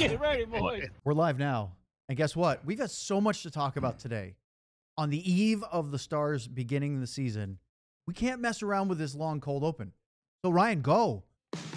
Get ready, boys. We're live now. And guess what? We've got so much to talk about today. On the eve of the Stars beginning the season, we can't mess around with this long cold open. So Ryan, go.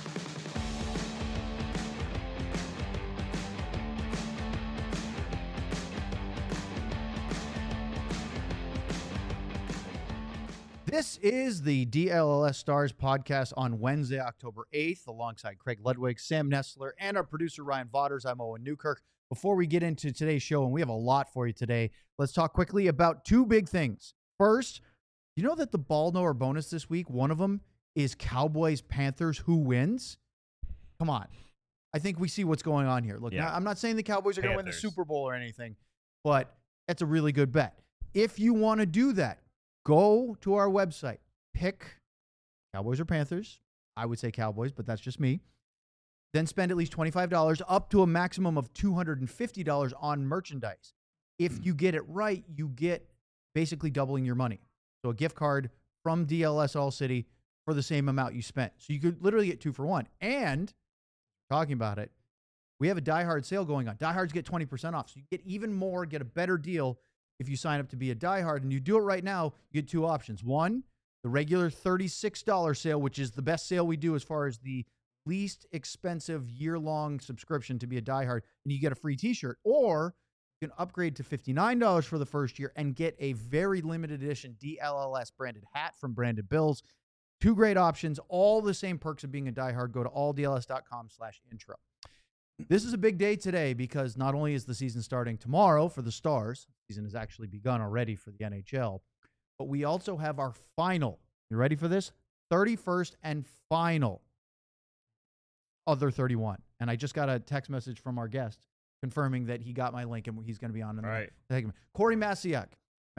This is the DLLS Stars podcast on Wednesday, October 8th, alongside Craig Ludwig, Sam Nestler, and our producer, Ryan Vaughters. I'm Owen Newkirk. Before we get into today's show, and we have a lot for you today, let's talk quickly about two big things. First, you know that the ball knower bonus this week, one of them is Cowboys-Panthers, who wins? Come on. I think we see what's going on here. Look, now, I'm not saying the Cowboys are going to win the Super Bowl or anything, but that's a really good bet. If you want to do that, go to our website, pick Cowboys or Panthers. I would say Cowboys, but that's just me. Then spend at least $25 up to a maximum of $250 on merchandise. If you get it right, you get basically doubling your money. So a gift card from DLS All City for the same amount you spent. So you could literally get 2 for 1. And talking about it, we have a Die Hard sale going on. Die Hards get 20% off. So you get even more, get a better deal if you sign up to be a Die Hard. And you do it right now, you get two options. One, the regular $36 sale, which is the best sale we do as far as the least expensive year-long subscription to be a Die Hard, and you get a free t-shirt. Or you can upgrade to $59 for the first year and get a very limited edition DLLS branded hat from Branded Bills. Two great options, all the same perks of being a Die Hard. Go to alldls.com/intro. This is a big day today because not only is the season starting tomorrow for the Stars, the season has actually begun already for the NHL, but we also have our final, you ready for this? 31st and final other 31. And I just got a text message from our guest confirming that he got my link and he's going to be on in the segment. Corey Masiak.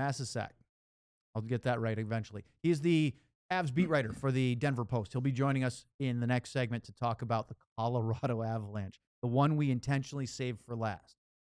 I'll get that right eventually. He's the Avs beat writer for the Denver Post. He'll be joining us in the next segment to talk about the Colorado Avalanche, the one we intentionally saved for last.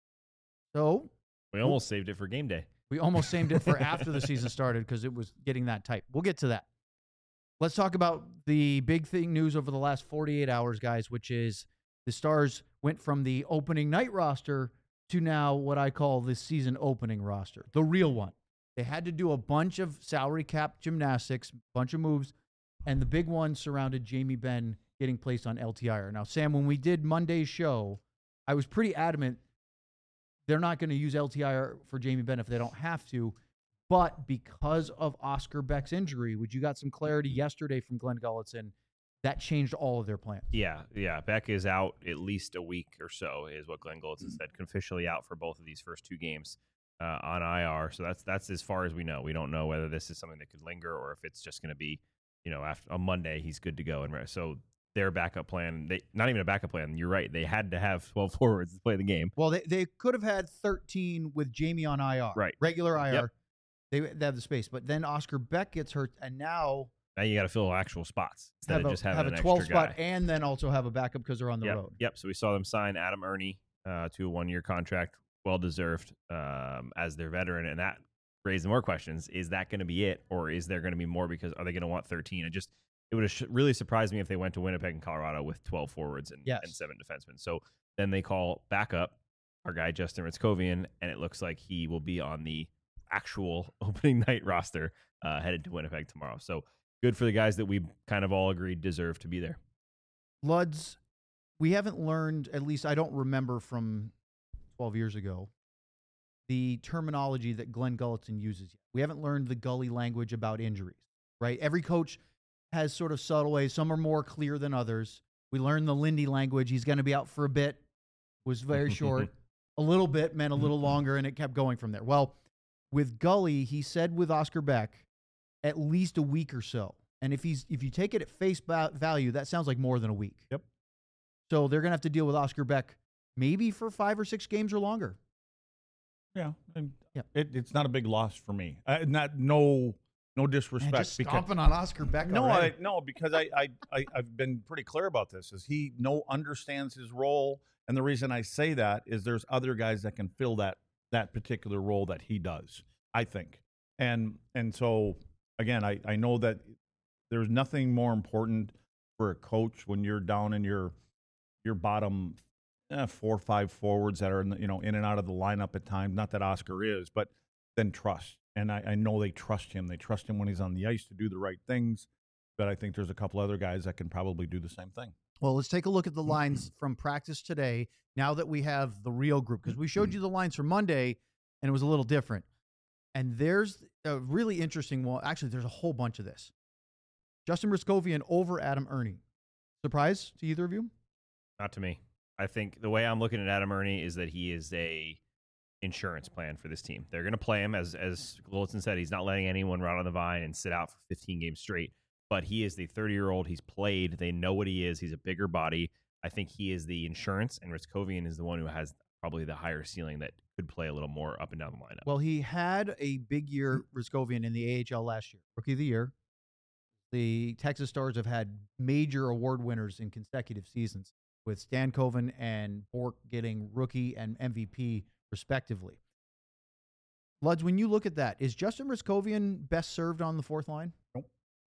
So we almost saved it for game day. We almost saved it for after the season started because it was getting that tight. We'll get to that. Let's talk about the big thing news over the last 48 hours, guys, which is the Stars went from the opening night roster to now what I call the season opening roster, the real one. They had to do a bunch of salary cap gymnastics, a bunch of moves, and the big one surrounded Jamie Benn getting placed on LTIR. Now, Sam, when we did Monday's show, I was pretty adamant they're not going to use LTIR for Jamie Benn if they don't have to. But because of Oscar Beck's injury, which you got some clarity yesterday from Glenn Gulutzan, that changed all of their plans. Yeah. Beck is out at least a week or so, is what Glenn Gulutzan said. Officially out for both of these first two games on IR. So that's as far as we know. We don't know whether this is something that could linger or if it's just going to be, after on Monday he's good to go. And so their backup plan, not even a backup plan. You're right. They had to have 12 forwards to play the game. Well, they could have had 13 with Jamie on IR, right? Regular IR. Yep. They have the space, but then Oscar Beck gets hurt, and now you got to fill actual spots instead of just having have an a 12 extra spot, guy. And then also have a backup because they're on the road. Yep. So we saw them sign Adam Ernie to a 1-year contract, well deserved as their veteran, and that raised more questions. Is that going to be it, or is there going to be more? Because are they going to want 13? It would have really surprised me if they went to Winnipeg and Colorado with 12 forwards and 7 defensemen. So then they call backup our guy Justin Ritzkovian, and it looks like he will be on the actual opening night roster headed to Winnipeg tomorrow. So good for the guys that we kind of all agreed deserve to be there. Luds, we haven't learned, at least I don't remember from 12 years ago, the terminology that Glenn Gulutzan uses yet. We haven't learned the Gully language about injuries, right? Every coach has sort of subtle ways. Some are more clear than others. We learned the Lindy language. He's going to be out for a bit. Was very short. A little bit meant a little longer, and it kept going from there. Well, with Gully, he said with Oscar Beck, at least a week or so. And if you take it at face value, that sounds like more than a week. Yep. So they're going to have to deal with Oscar Beck maybe for 5 or 6 games or longer. Yeah. It's not a big loss for me. No disrespect. Man, just stomping on Oscar Beck. No, because I've been pretty clear about this. Is he understands his role, and the reason I say that is there's other guys that can fill that particular role that he does. I think, and so again, I know that there's nothing more important for a coach when you're down in your bottom 4 or 5 forwards that are in, in and out of the lineup at times. Not that Oscar is, but then trust. And I know they trust him. They trust him when he's on the ice to do the right things. But I think there's a couple other guys that can probably do the same thing. Well, let's take a look at the lines from practice today, now that we have the real group, because we showed you the lines from Monday, and it was a little different. And there's a really interesting one. Actually, there's a whole bunch of this. Justin Ryscovian over Adam Ernie. Surprise to either of you? Not to me. I think the way I'm looking at Adam Ernie is that he is a insurance plan for this team. They're going to play him, as Golson said, he's not letting anyone rot on the vine and sit out for 15 games straight. But he is the 30-year-old. He's played. They know what he is. He's a bigger body. I think he is the insurance, and Ryscovian is the one who has probably the higher ceiling that could play a little more up and down the lineup. Well, he had a big year, Ryscovian, in the AHL last year. Rookie of the year. The Texas Stars have had major award winners in consecutive seasons, with Stan Koven and Bork getting rookie and MVP respectively. Luds, when you look at that, is Justin Ryscovian best served on the fourth line? Nope.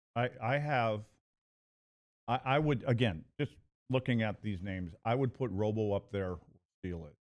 I would, again, just looking at these names, I would put Robo up there where Steele is.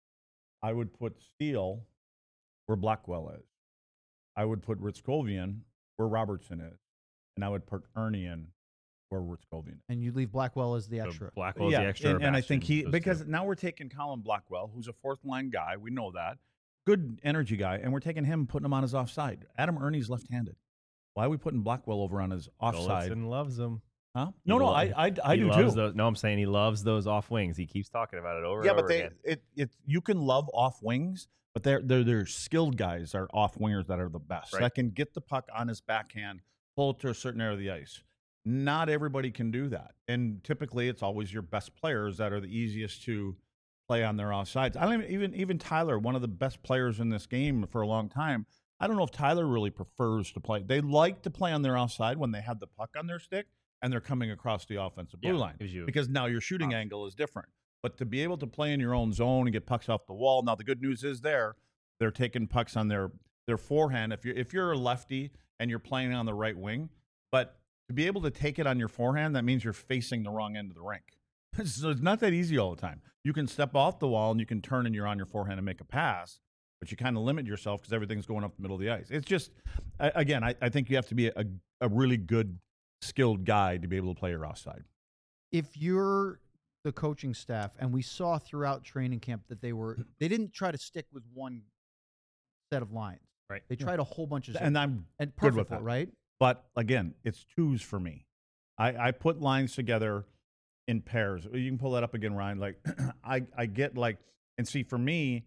I would put Steele where Blackwell is. I would put Ryscovian where Robertson is. And I would put Ernie in where Ryscovian is. And you leave Blackwell as the extra. So Blackwell's the extra. And I think because now we're taking Colin Blackwell, who's a fourth line guy. We know that. Good energy guy. And we're taking him and putting him on his offside. Adam Ernie's left-handed. Why are we putting Blackwell over on his offside? Golson loves him. Huh? No, I do too. No, I'm saying he loves those off wings. He keeps talking about it over and over again. Yeah, but you can love off wings, but they're skilled guys are off wingers that are the best. Right. That can get the puck on his backhand, pull it to a certain area of the ice. Not everybody can do that. And typically it's always your best players that are the easiest to play on their offsides. I don't even Tyler, one of the best players in this game for a long time. I don't know if Tyler really prefers to play. They like to play on their offside when they have the puck on their stick and they're coming across the offensive blue line, because now your shooting angle is different. But to be able to play in your own zone and get pucks off the wall, now the good news is they're taking pucks on their forehand. If you're a lefty and you're playing on the right wing, but to be able to take it on your forehand, that means you're facing the wrong end of the rink. So it's not that easy all the time. You can step off the wall and you can turn and you're on your forehand and make a pass, but you kind of limit yourself because everything's going up the middle of the ice. It's just, again, I think you have to be a really good, skilled guy to be able to play your offside. If you're the coaching staff, and we saw throughout training camp that they didn't try to stick with one set of lines. Right. They tried a whole bunch of And I'm and good with perfect, that. right? But again, it's twos for me. I put lines together in pairs. You can pull that up again, Ryan. Like I get like, and see for me,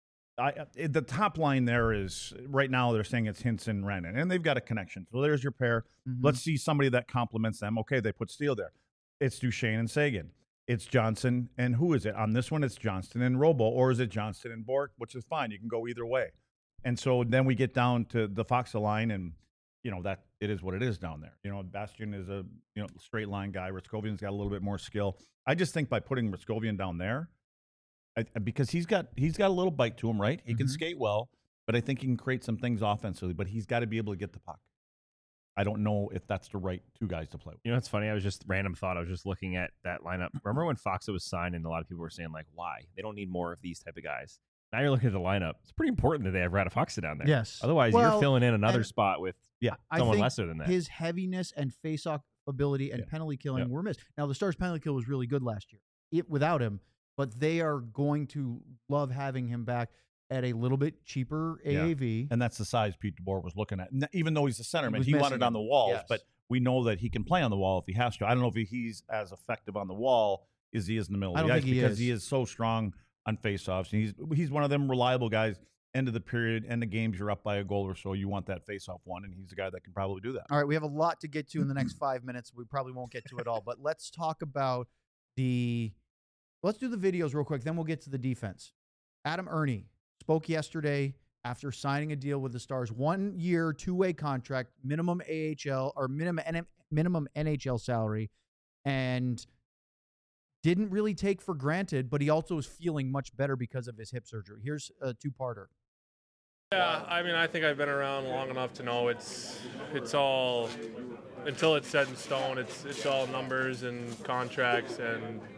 the top line there is right now they're saying it's Hintz and Rennan, and they've got a connection. So there's your pair. Mhm. Let's see somebody that complements them. Okay, they put Steele there. It's Duchesne and Sagan. It's Johnson and who is it? On this one, it's Johnston and Robo, or is it Johnston and Bork, which is fine. You can go either way. And so then we get down to the Foxa line, and that it is what it is down there. Bastian is a straight line guy. Ryscovian's got a little bit more skill. I just think by putting Ryscovian down there, because he's got a little bite to him, right? He can skate well, but I think he can create some things offensively. But he's got to be able to get the puck. I don't know if that's the right two guys to play with. It's funny. I was just looking at that lineup. Remember when Foxa was signed, and a lot of people were saying like, why? They don't need more of these type of guys. Now you're looking at the lineup. It's pretty important that they have Radafoxa down there. Yes. Otherwise, you're filling in another spot with someone think lesser than that. His heaviness and face-off ability and penalty killing were missed. Now, the Stars' penalty kill was really good last year without him, but they are going to love having him back at a little bit cheaper AAV. And that's the size Pete DeBoer was looking at. Even though he's a centerman, he missing wanted on the walls, Yes. but we know that he can play on the wall if he has to. I don't know if he's as effective on the wall as he is in the middle of the ice, because he is so strong on faceoffs. And he's one of them reliable guys. End of the period, end of games, you're up by a goal or so. You want that faceoff one, and he's the guy that can probably do that. All right, we have a lot to get to in the next 5 minutes. We probably won't get to it all, but let's talk about let's do the videos real quick, then we'll get to the defense. Adam Ernie spoke yesterday after signing a deal with the Stars, 1 year, 2-way contract, minimum AHL or minimum NHL salary, and didn't really take for granted, but he also is feeling much better because of his hip surgery. Here's a two-parter. Yeah, I think I've been around long enough to know it's all, until it's set in stone, it's all numbers and contracts, and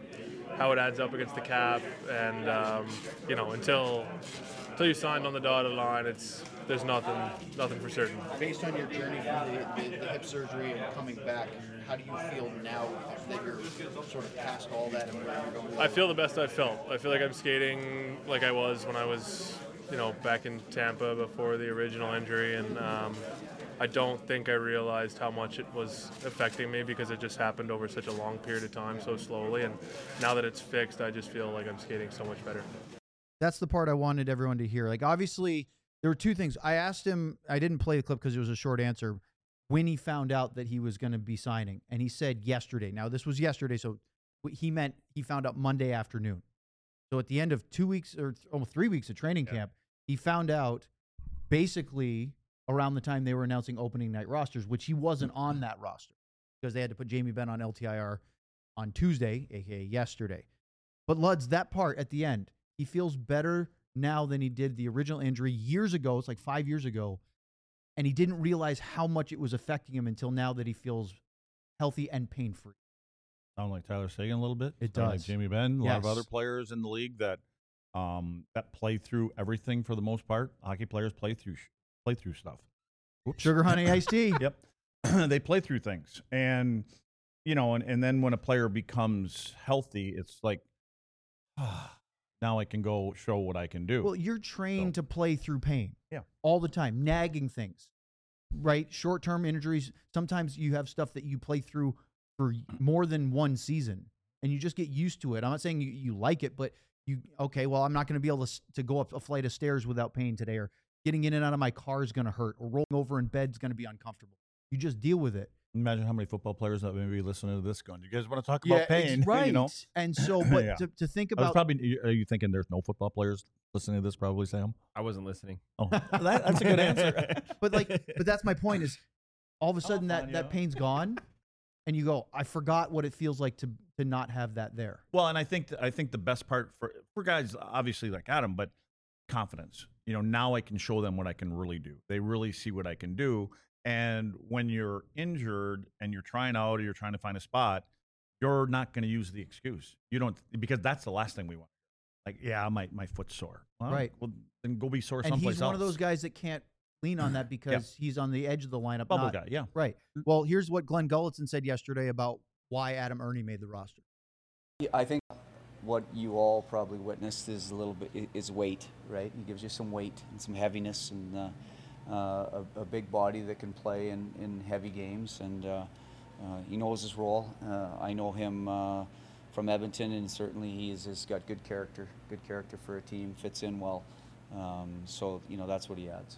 how it adds up against the cap, and until you signed on the dotted line, there's nothing for certain. Based on your journey from the hip surgery and coming back, how do you feel now that you're sort of past all that and where you're going? I feel the best I've felt. I feel like I'm skating like I was when I was, back in Tampa before the original injury, and I don't think I realized how much it was affecting me because it just happened over such a long period of time, so slowly. And now that it's fixed, I just feel like I'm skating so much better. That's the part I wanted everyone to hear. Like, obviously, there were two things. I asked him, I didn't play the clip because it was a short answer, when he found out that he was going to be signing. And he said yesterday. Now, this was yesterday, so he meant he found out Monday afternoon. So at the end of 2 weeks or almost 3 weeks of training camp, he found out basically around the time they were announcing opening night rosters, which he wasn't on that roster because they had to put Jamie Benn on LTIR on Tuesday, a.k.a. yesterday. But Luds, that part at the end, he feels better now than he did the original injury years ago. It's like 5 years ago. And he didn't realize how much it was affecting him until now that he feels healthy and pain-free. Sound like Tyler Seguin a little bit? It Sound does. like Jamie Benn, a lot of Yes. other players in the league that play through everything for the most part. Hockey players play through stuff. Sugar Honey Iced Tea. Yep. They play through things. And, and then when a player becomes healthy, it's like, now I can go show what I can do. Well, you're trained to play through pain. Yeah. All the time, nagging things, right? Short-term injuries. Sometimes you have stuff that you play through for more than one season, and you just get used to it. I'm not saying you like it, but I'm not going to be able to go up a flight of stairs without pain today, or getting in and out of my car is going to hurt, or rolling over in bed is going to be uncomfortable. You just deal with it. Imagine how many football players that may be listening to this going, you guys want to talk about pain? It's right. And so, but Yeah. to think I was about, are you thinking there's no football players listening to this probably, Sam? I wasn't listening. Oh, that's a good answer. but that's my point is, all of a sudden fine, that pain's gone, and you go, I forgot what it feels like to not have that there. Well, and I think the best part for guys, obviously like Adam, but confidence. Now I can show them what I can really do. They really see what I can do. And when you're injured and you're trying out or you're trying to find a spot, you're not going to use the excuse. You don't, because that's the last thing we want. Like, yeah, my foot's sore. Well, Right. Well, then go be sore And someplace else. he's one of those guys that can't lean on that because he's on the edge of the lineup. Bubble guy, yeah. Right. Well, here's what Glenn Gulletson said yesterday about why Adam Ernie made the roster. I think what you all probably witnessed is a little bit is weight, right? He gives you some weight and some heaviness and a big body that can play in heavy games, and he knows his role. I know him from Edmonton, and certainly he's got good character for a team, fits in well. So that's what he adds.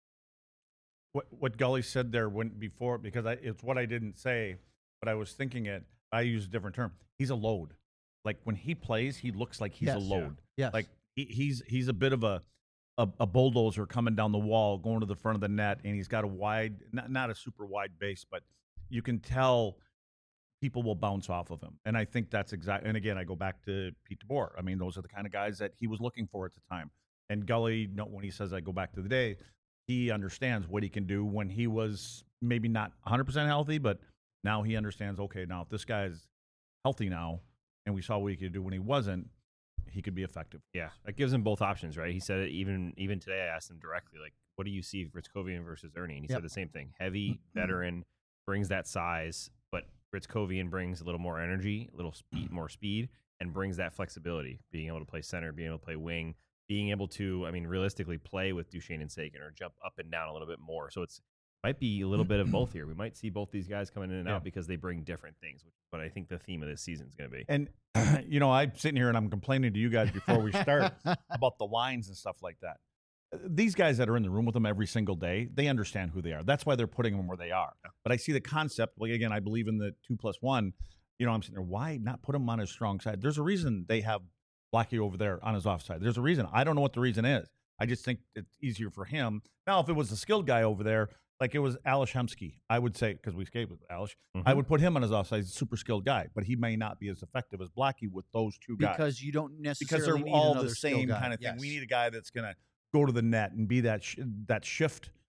What Gully said there before, because it's what I didn't say, but I was thinking it. I use a different term. He's a load. Like when he plays, he looks like he's a load. Yeah. Yes. Like he's a bit of a bulldozer coming down the wall, going to the front of the net, and he's got a wide, not a super wide base, but you can tell people will bounce off of him. And I think that's exactly. And again, I go back to Pete DeBoer. I mean, those are the kind of guys that he was looking for at the time. And Gully, when he says I go back to the day, he understands what he can do when he was maybe not 100% healthy, but now he understands, okay, now if this guy's healthy now, and we saw what he could do when he wasn't, he could be effective. Yeah, that gives him both options, right? He said it even today. I asked him directly, like, what do you see Ritzkovian versus Ernie? And he said the same thing. Heavy, veteran, brings that size, but Ritzkovian brings a little more energy, a little more speed, and brings that flexibility, being able to play center, being able to play wing, being able to, realistically play with Duchesne and Seguin or jump up and down a little bit more. So it's might be a little bit of both here. We might see both these guys coming in and out because they bring different things, which is what I think the theme of this season is going to be. And, I'm sitting here and I'm complaining to you guys before we start about the lines and stuff like that. These guys that are in the room with them every single day, they understand who they are. That's why they're putting them where they are. Yeah. But I see the concept. Like, again, I believe in the 2+1. I'm sitting there, why not put him on his strong side? There's a reason they have Blackie over there on his offside. There's a reason. I don't know what the reason is. I just think it's easier for him. Now, if it was a skilled guy over there, like it was Alish Hemsky, I would say, because we skated with Alish, I would put him on his offside. He's a super skilled guy, but he may not be as effective as Blackie with those two guys. Because you don't necessarily because they're need all another the same skill guy. kind of thing. Yes. We need a guy that's going to go to the net and be that shift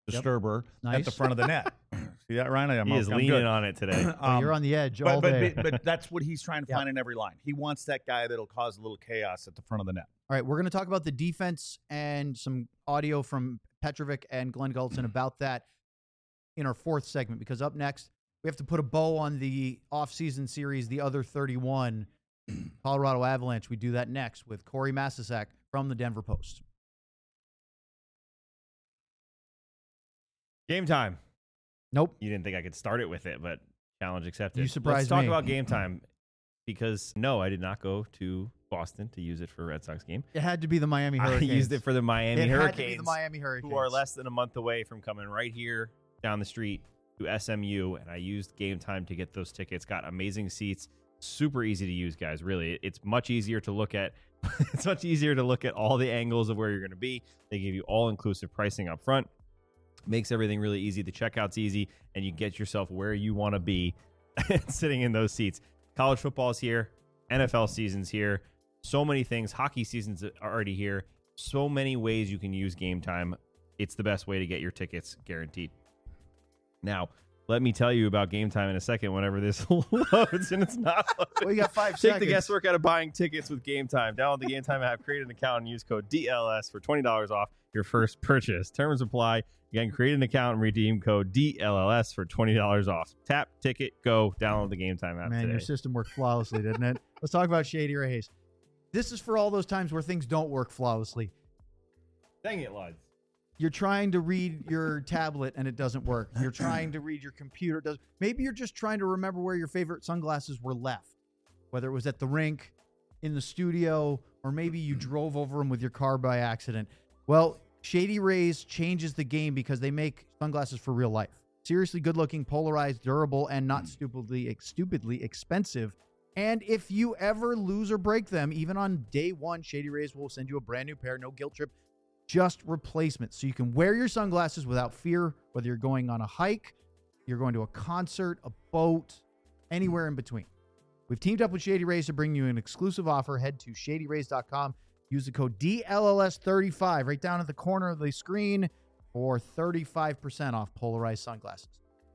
disturber at the Nice. front of the net. See that, Ryan? I'm He is I'm leaning good. on it today. Oh, you're on the edge all day. But that's what he's trying to Yeah. find in every line. He wants that guy that'll cause a little chaos at the front of the net. All right, we're going to talk about the defense and some audio from Petrovic and Glenn Gulson about that in our fourth segment, because up next, we have to put a bow on the offseason series, the other 31, Colorado Avalanche. We do that next with Corey Masisak from the Denver Post. Game time. Nope. You didn't think I could start it with it, but challenge accepted. You surprised Let's talk me. about game time, because no, I did not go to Boston to use it for a Red Sox game. It had to be the Miami I Hurricanes. used it for the Miami It Hurricanes, had to be the Miami Hurricanes. who are less than a month away from coming right here down the street to SMU, and I used game time to get those tickets. Got amazing seats. Super easy to use, guys. Really, it's much easier to look at. It's much easier to look at all the angles of where you're going to be. They give you all-inclusive pricing up front. Makes everything really easy. The checkout's easy, and you get yourself where you want to be sitting in those seats. College football's here. NFL season's here. So many things. Hockey season's already here. So many ways you can use game time. It's the best way to get your tickets, guaranteed. Now, let me tell you about game time in a second whenever this loads, and it's not loading. Well, you got 5 Take seconds. the guesswork out of buying tickets with Game Time. Download the Game Time app, create an account, and use code DLS for $20 off your first purchase. Terms apply. Again, create an account and redeem code DLLS for $20 off. Tap, ticket, go. Download the Game Time app Man, today. your system worked flawlessly, didn't it? Let's talk about Shady Rays. This is for all those times where things don't work flawlessly. Dang it, lads. You're trying to read your tablet and it doesn't work. You're trying to read your computer. Maybe you're just trying to remember where your favorite sunglasses were left, whether it was at the rink, in the studio, or maybe you drove over them with your car by accident. Well, Shady Rays changes the game because they make sunglasses for real life. Seriously good-looking, polarized, durable, and not stupidly expensive. And if you ever lose or break them, even on day one, Shady Rays will send you a brand new pair, no guilt trip, just replacements. So you can wear your sunglasses without fear, whether you're going on a hike, you're going to a concert, a boat, anywhere in between. We've teamed up with Shady Rays to bring you an exclusive offer. Head to shadyrays.com. Use the code DLLS35 right down at the corner of the screen for 35% off polarized sunglasses.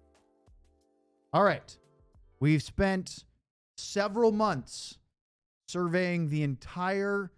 All right. We've spent several months surveying the entire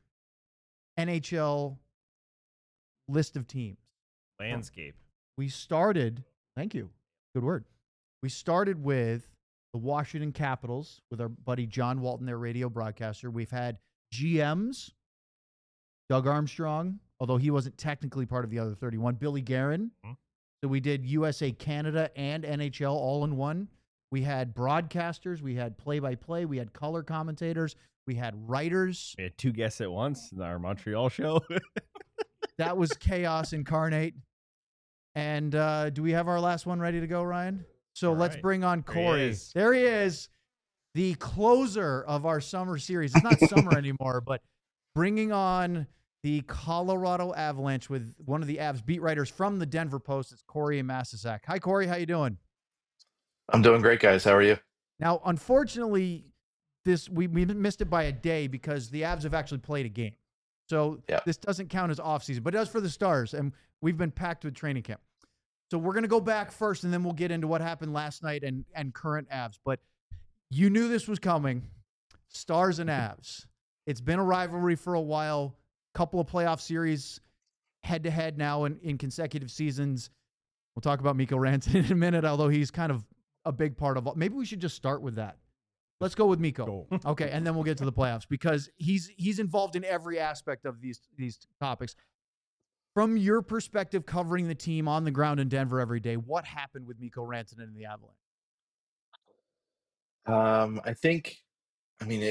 NHL list of teams. Landscape. We started, thank you, good word. We started with the Washington Capitals with our buddy John Walton, their radio broadcaster. We've had GMs, Doug Armstrong, although he wasn't technically part of the other 31, Billy Guerin. So we did USA, Canada, and NHL all in one. We had broadcasters, we had play-by-play, we had color commentators, we had writers. We had 2 guests at once in our Montreal show. That was chaos incarnate. And do we have our last one ready to go, Ryan? So All let's right. bring on There he Corey. is. There he is, the closer of our summer series. It's not summer anymore, but bringing on the Colorado Avalanche with one of the Avs beat writers from the Denver Post. It's Corey Masisak. Hi, Corey. How you doing? I'm doing great, guys. How are you? Now, unfortunately, we missed it by a day because the Avs have actually played a game. So Yeah. this doesn't count as offseason, but it does for the Stars, and we've been packed with training camp. So we're going to go back first, and then we'll get into what happened last night and current Avs. But you knew this was coming, Stars and Avs. It's been a rivalry for a while, couple of playoff series head-to-head now in consecutive seasons. We'll talk about Mikko Rantanen in a minute, although he's kind of a big part of all. Maybe we should just start with that. Let's go with Mikko. Go. Okay, and then we'll get to the playoffs because he's involved in every aspect of these topics. From your perspective, covering the team on the ground in Denver every day, what happened with Mikko Rantanen and the Avalanche? I think, I mean,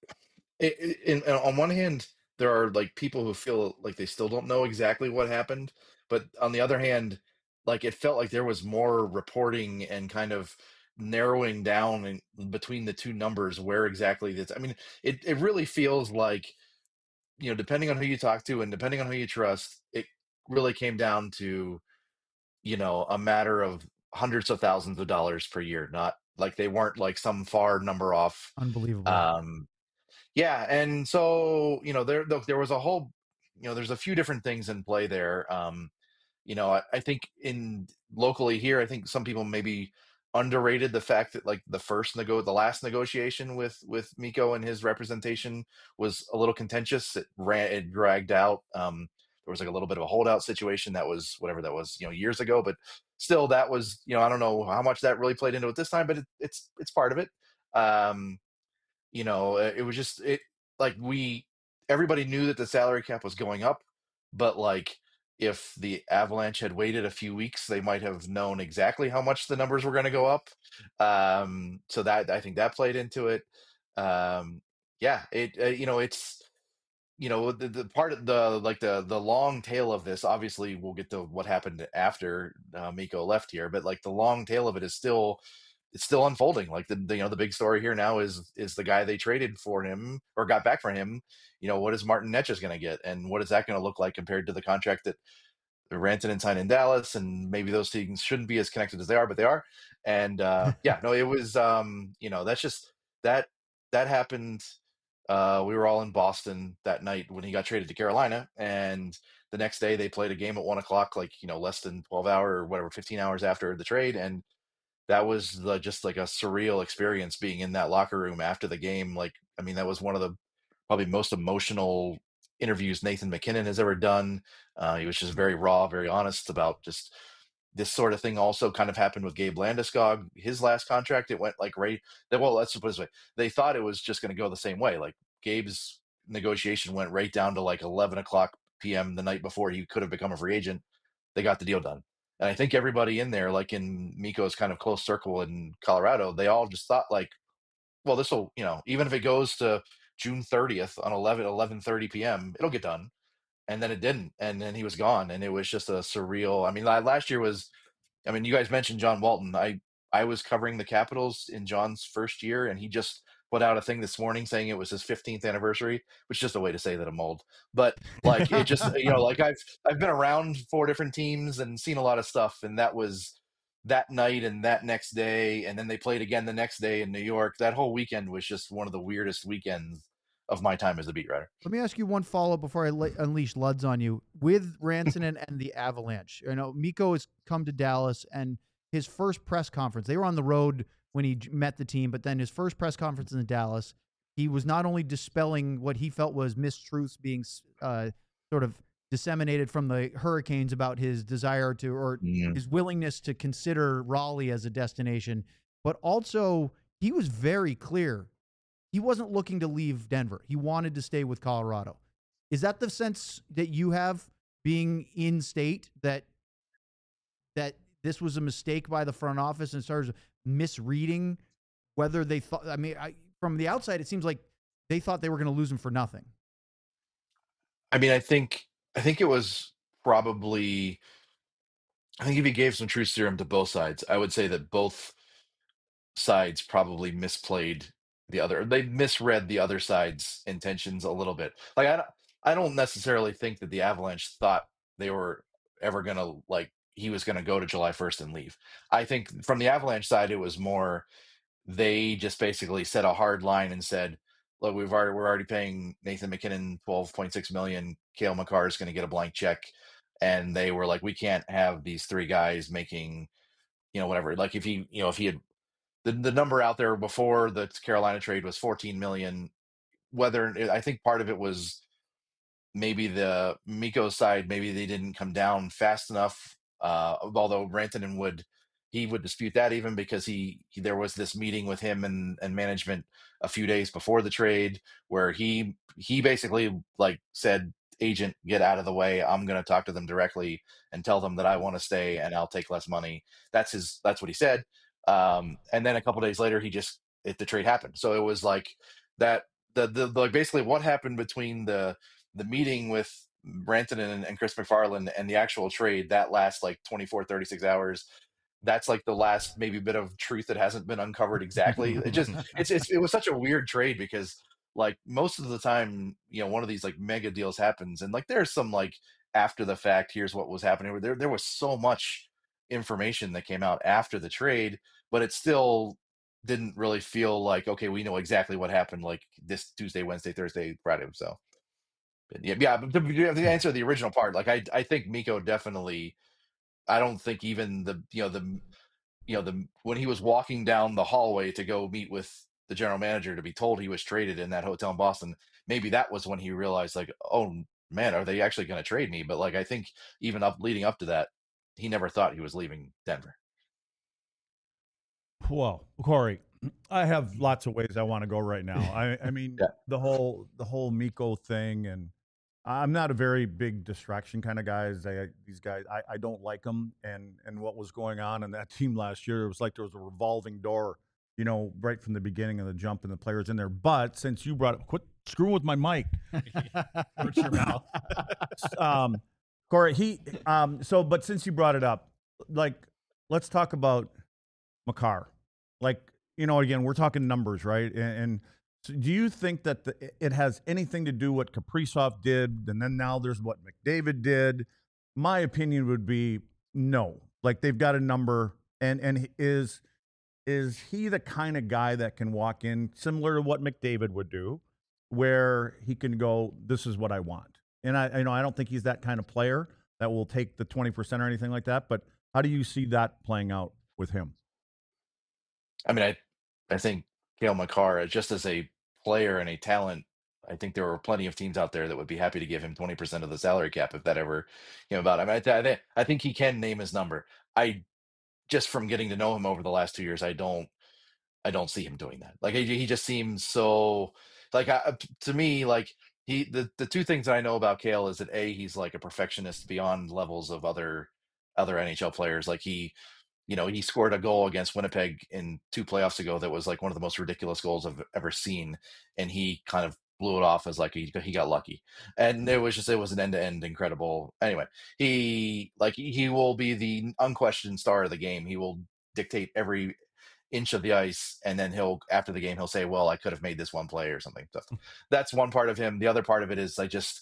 on one hand, there are like people who feel like they still don't know exactly what happened, but on the other hand, like it felt like there was more reporting and kind of narrowing down between the two numbers where exactly this. I mean, it really feels like, depending on who you talk to and depending on who you trust, it really came down to, a matter of hundreds of thousands of dollars per year, not like they weren't like some far number off. Unbelievable. Yeah, and so there was a whole, there's a few different things in play there. I think in locally here, I think some people maybe underrated the fact that like the last negotiation with Miko and his representation was a little contentious. It dragged out. There was like a little bit of a holdout situation that was whatever that was, years ago, but still that was, I don't know how much that really played into it this time, but it's part of it. Um, it was just like everybody knew that the salary cap was going up, but like if the Avalanche had waited a few weeks, they might have known exactly how much the numbers were going to go up. So that I think that played into it. Yeah, it's the part of the long tail of this. Obviously, we'll get to what happened after Miko left here, but like the long tail of it is still it's still unfolding. Like the big story here now is the guy they traded for him or got back for him. What is Martin Necas going to get, and what is that going to look like compared to the contract that Rantanen signed in Dallas? And maybe those things shouldn't be as connected as they are, but they are. And yeah, no, it was that's just that happened. We were all in Boston that night when he got traded to Carolina, and the next day they played a game at 1:00, like less than 12 hours or whatever, 15 hours after the trade, and that was just like a surreal experience being in that locker room after the game. Like, I mean, that was one of the probably most emotional interviews Nathan MacKinnon has ever done. He was just very raw, very honest about just this sort of thing. Also kind of happened with Gabe Landeskog. His last contract, it went like well, let's put it this way. They thought it was just going to go the same way. Like Gabe's negotiation went right down to like 11:00 p.m. the night before he could have become a free agent. They got the deal done. And I think everybody in there, like in Miko's kind of close circle in Colorado, they all just thought like, well, this will, even if it goes to June 30th on 11:30 p.m., it'll get done. And then it didn't. And then he was gone. And it was just a surreal. I mean, last year was, you guys mentioned John Walton. I was covering the Capitals in John's first year, and he just put out a thing this morning saying it was his 15th anniversary, which is just a way to say that I'm old. But like it just, like I've been around 4 different teams and seen a lot of stuff, and that was that night and that next day, and then they played again the next day in New York. That whole weekend was just one of the weirdest weekends of my time as a beat writer. Let me ask you one follow-up before I unleash Luds on you. With Rantanen and the Avalanche, Miko has come to Dallas, and his first press conference, they were on the road when he met the team, but then his first press conference in Dallas, he was not only dispelling what he felt was mistruths being sort of disseminated from the Hurricanes about his desire to, or his willingness to consider Raleigh as a destination, but also he was very clear. He wasn't looking to leave Denver. He wanted to stay with Colorado. Is that the sense that you have being in state, that this was a mistake by the front office in terms of misreading whether they thought, from the outside, it seems like they thought they were going to lose him for nothing. I mean, I think it was probably, I think if he gave some truth serum to both sides, I would say that both sides probably they misread the other side's intentions a little bit. Like I don't necessarily think that the Avalanche thought they were ever going to, like, he was going to go to July 1st and leave. I think from the Avalanche side, it was more, they just basically set a hard line and said, look, we're already paying Nathan MacKinnon $12.6 million. Cale Makar is going to get a blank check. And they were like, we can't have these 3 guys making, whatever. Like if he had, the number out there before the Carolina trade was $14 million. I think part of it was maybe the Miko side, maybe they didn't come down fast enough. Although Rantanen would dispute that, even because there was this meeting with him and management a few days before the trade where he basically like said, agent, get out of the way. I'm going to talk to them directly and tell them that I want to stay and I'll take less money. That's what he said. And then a couple days later, the trade happened. So it was like that, like basically what happened between the meeting with Rantanen and Chris MacFarland and the actual trade, that last like 24, 36 hours, that's like the last maybe bit of truth that hasn't been uncovered exactly. It was such a weird trade because like most of the time, one of these like mega deals happens and like there's some like after the fact, here's what was happening. There was so much information that came out after the trade, but it still didn't really feel like, okay, we know exactly what happened like this Tuesday, Wednesday, Thursday, Friday. So yeah, but to answer the original part, like I think Miko definitely I don't think even when he was walking down the hallway to go meet with the general manager to be told he was traded in that hotel in Boston, maybe that was when he realized, like, oh man, are they actually going to trade me? But like, I think even leading up to that, he never thought he was leaving Denver. Well, Corey, I have lots of ways I want to go right now. I mean, Yeah. the whole Miko thing, and I'm not a very big distraction kind of guy. These guys, I don't like them. And what was going on in that team last year, it was like there was a revolving door, right from the beginning of the jump and the players in there. But since you brought up, quit screwing with my mic. Hurts your mouth. Corey, but since you brought it up, like, let's talk about Makar. Like, again, we're talking numbers, right? And so do you think that it has anything to do what Kaprizov did, and then now there's what McDavid did? My opinion would be no. Like, they've got a number, and is he the kind of guy that can walk in similar to what McDavid would do, where he can go, this is what I want? And I don't think he's that kind of player that will take the 20% or anything like that. But how do you see that playing out with him? I mean, I think Cale Makar, just as a player and a talent, I think there were plenty of teams out there that would be happy to give him 20% of the salary cap if that ever came about. I mean, I think he can name his number. Just from getting to know him over the last 2 years, I don't see him doing that. Like, he just seems so, like, to me, like, the two things that I know about Cale is that he's like a perfectionist beyond levels of other NHL players. Like, he scored a goal against Winnipeg in 2 playoffs ago that was like one of the most ridiculous goals I've ever seen, and he kind of blew it off as like he got lucky, and it was an end-to-end incredible. Anyway, he will be the unquestioned star of the game. He will dictate every inch of the ice, and then after the game he'll say, well, I could have made this one play or something. So that's one part of him. The other part of it is I just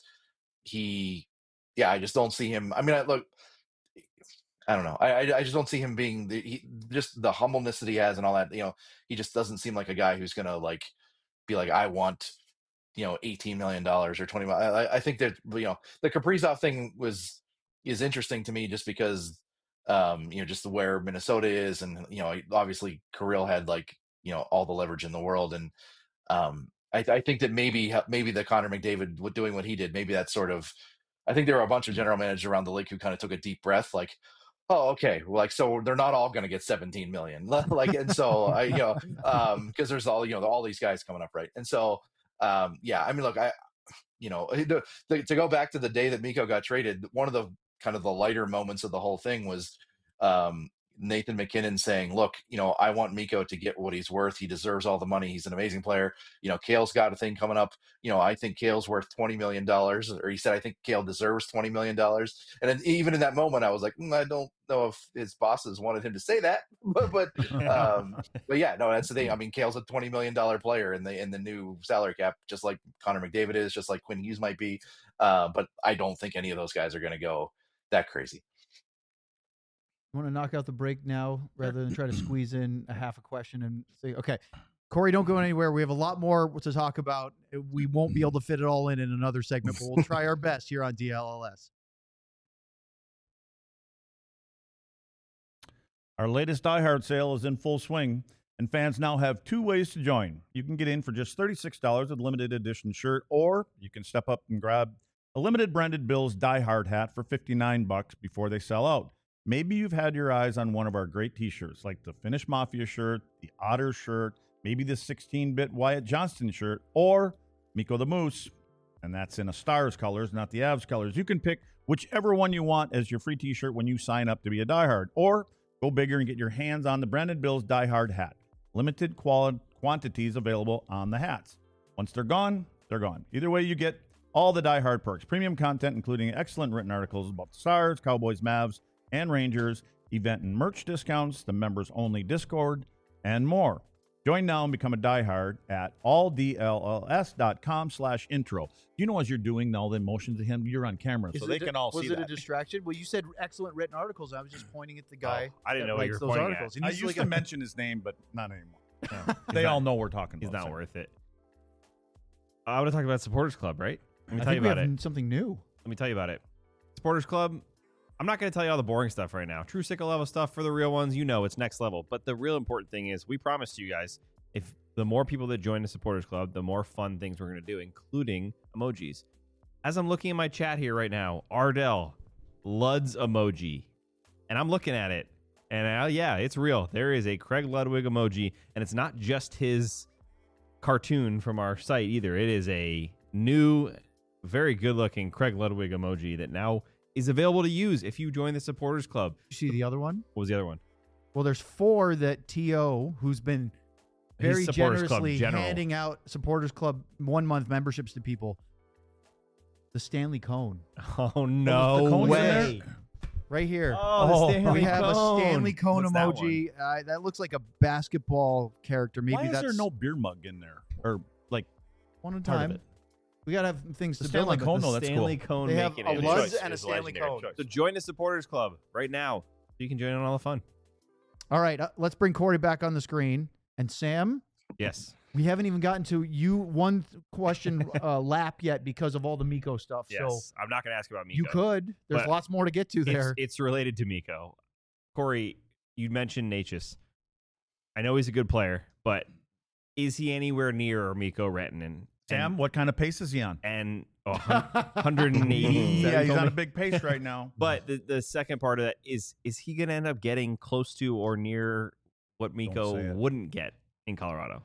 don't see him. I mean, I don't know. I just don't see him being just the humbleness that he has and all that. He just doesn't seem like a guy who's gonna like be like, I want $18 million or $20 million. I think that the Kaprizov thing is interesting to me just because just where Minnesota is, and obviously Kirill had like all the leverage in the world, and I think that maybe the Connor McDavid doing what he did, maybe that's sort of. I think there were a bunch of general managers around the league who kind of took a deep breath, like, oh, okay, like, so they're not all going to get 17 million, like, and so because there's all these guys coming up, right? And so I mean, look, to go back to the day that Mikko got traded, one of the kind of the lighter moments of the whole thing was Nathan McKinnon saying, look, I want Mikko to get what he's worth. He deserves all the money. He's an amazing player. Cale's got a thing coming up. I think Cale's worth $20 million, or he said, I think Cale deserves $20 million. And then even in that moment, I was like, I don't know if his bosses wanted him to say that, but yeah, no, that's the thing. I mean, Cale's a $20 million player in the new salary cap, just like Connor McDavid is, just like Quinn Hughes might be. But I don't think any of those guys are going to go that crazy. I want to knock out the break now rather than try to squeeze in a half a question and say, okay, Corey, don't go anywhere. We have a lot more to talk about. We won't be able to fit it all in another segment, but we'll try our best here on DLLS. Our latest Die Hard sale is in full swing, and fans now have 2 ways to join. You can get in for just $36 with a limited edition shirt, or you can step up and grab a limited branded Bills Die Hard hat for $59 before they sell out. Maybe you've had your eyes on one of our great t-shirts, like the Finnish Mafia shirt, the Otter shirt, maybe the 16-bit Wyatt Johnston shirt, or Mikko the Moose. And that's in a Stars colors, not the Avs colors. You can pick whichever one you want as your free t-shirt when you sign up to be a diehard. Or go bigger and get your hands on the Brandon Bills Die Hard hat. Limited quantities available on the hats. Once they're gone, they're gone. Either way, you get all the Die Hard perks. Premium content, including excellent written articles about the Stars, Cowboys, Mavs, and Rangers, event and merch discounts, the members-only Discord, and more. Join now and become a diehard at alldlls.com/intro. You know, as you're doing all the motions to him, you're on camera, so they can all see that. Was it a distraction? Well, you said excellent written articles. I was just pointing at the guy. I didn't know what you were those pointing articles. at. I used to mention his name, but not anymore. They all know we're talking about. He's not worth it. I want to talk about Supporters Club, right? Let me I tell you think we about have it. something new. Let me tell you about it. Supporters Club, I'm not going to tell you all the boring stuff right now. True sickle level stuff for the real ones, it's next level. But the real important thing is we promised you guys, if the more people that join the supporters club, the more fun things we're going to do, including emojis. As I'm looking at my chat here right now, Ardell, Lud's emoji. And I'm looking at it. And yeah, it's real. There is a Craig Ludwig emoji. And it's not just his cartoon from our site either. It is a new, very good-looking Craig Ludwig emoji that now is available to use if you join the supporters club. You see the other one? What was the other one? Well, there's 4 that T.O., who's been very His supporters club generously general. handing out supporters club 1-month memberships to people. The Stanley Cone. Oh, no the cones in way. Right here. Oh, the Stanley we have Cone. a Stanley Cone What's that emoji. That looks like a basketball character. Maybe Why is that's there no beer mug in there? Or like one at a part of time. it? We got to have things The to Stanley build on. Cone, but no, the that's Stanley cool. Cone They have making a it. Lutz Choice. and a It's Stanley legendary. Cone. So join the supporters club right now so you can join in on all the fun. All right, let's bring Corey back on the screen. And Sam, Yes. we haven't even gotten to you one question lap yet because of all the Miko stuff. Yes. So I'm not going to ask about Miko. you could. There's But lots more to get to there. It's related to Miko. Corey, you mentioned Natchez. I know he's a good player, but is he anywhere near Miko Rantanen? Sam, what kind of pace is he on? And 180. Is that what Yeah, you he's told on a me? big pace right now. But the second part of that is he going to end up getting close to or near what say Miko it. wouldn't get in Colorado?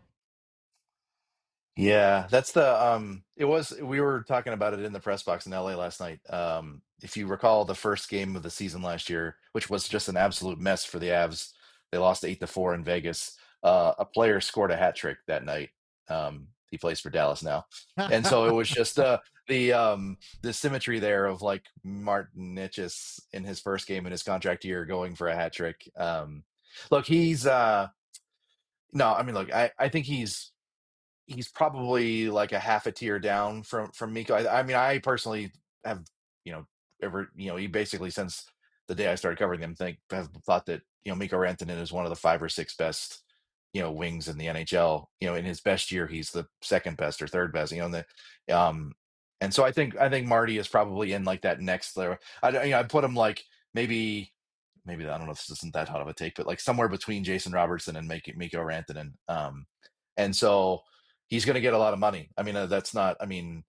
Yeah, that's we were talking about it in the press box in LA last night. If you recall the first game of the season last year, which was just an absolute mess for the Avs, they lost 8-4 in Vegas. A player scored a hat trick that night. He plays for Dallas now. And so it was just the symmetry there of like Martin Necas in his first game in his contract year going for a hat trick. Look, he's no, I mean, look, I think he's probably like a half a tier down from Miko. I mean, I personally have, he basically since the day I started covering him, have thought that Miko Rantanen is one of the 5 or 6 best wings in the NHL. In his best year, he's the second best or third best. And so I think Marty is probably in like that next layer. I put him like maybe I don't know if this isn't that hot of a take, but like somewhere between Jason Robertson and Miko Rantanen. And so he's going to get a lot of money. I mean, that's not. I mean,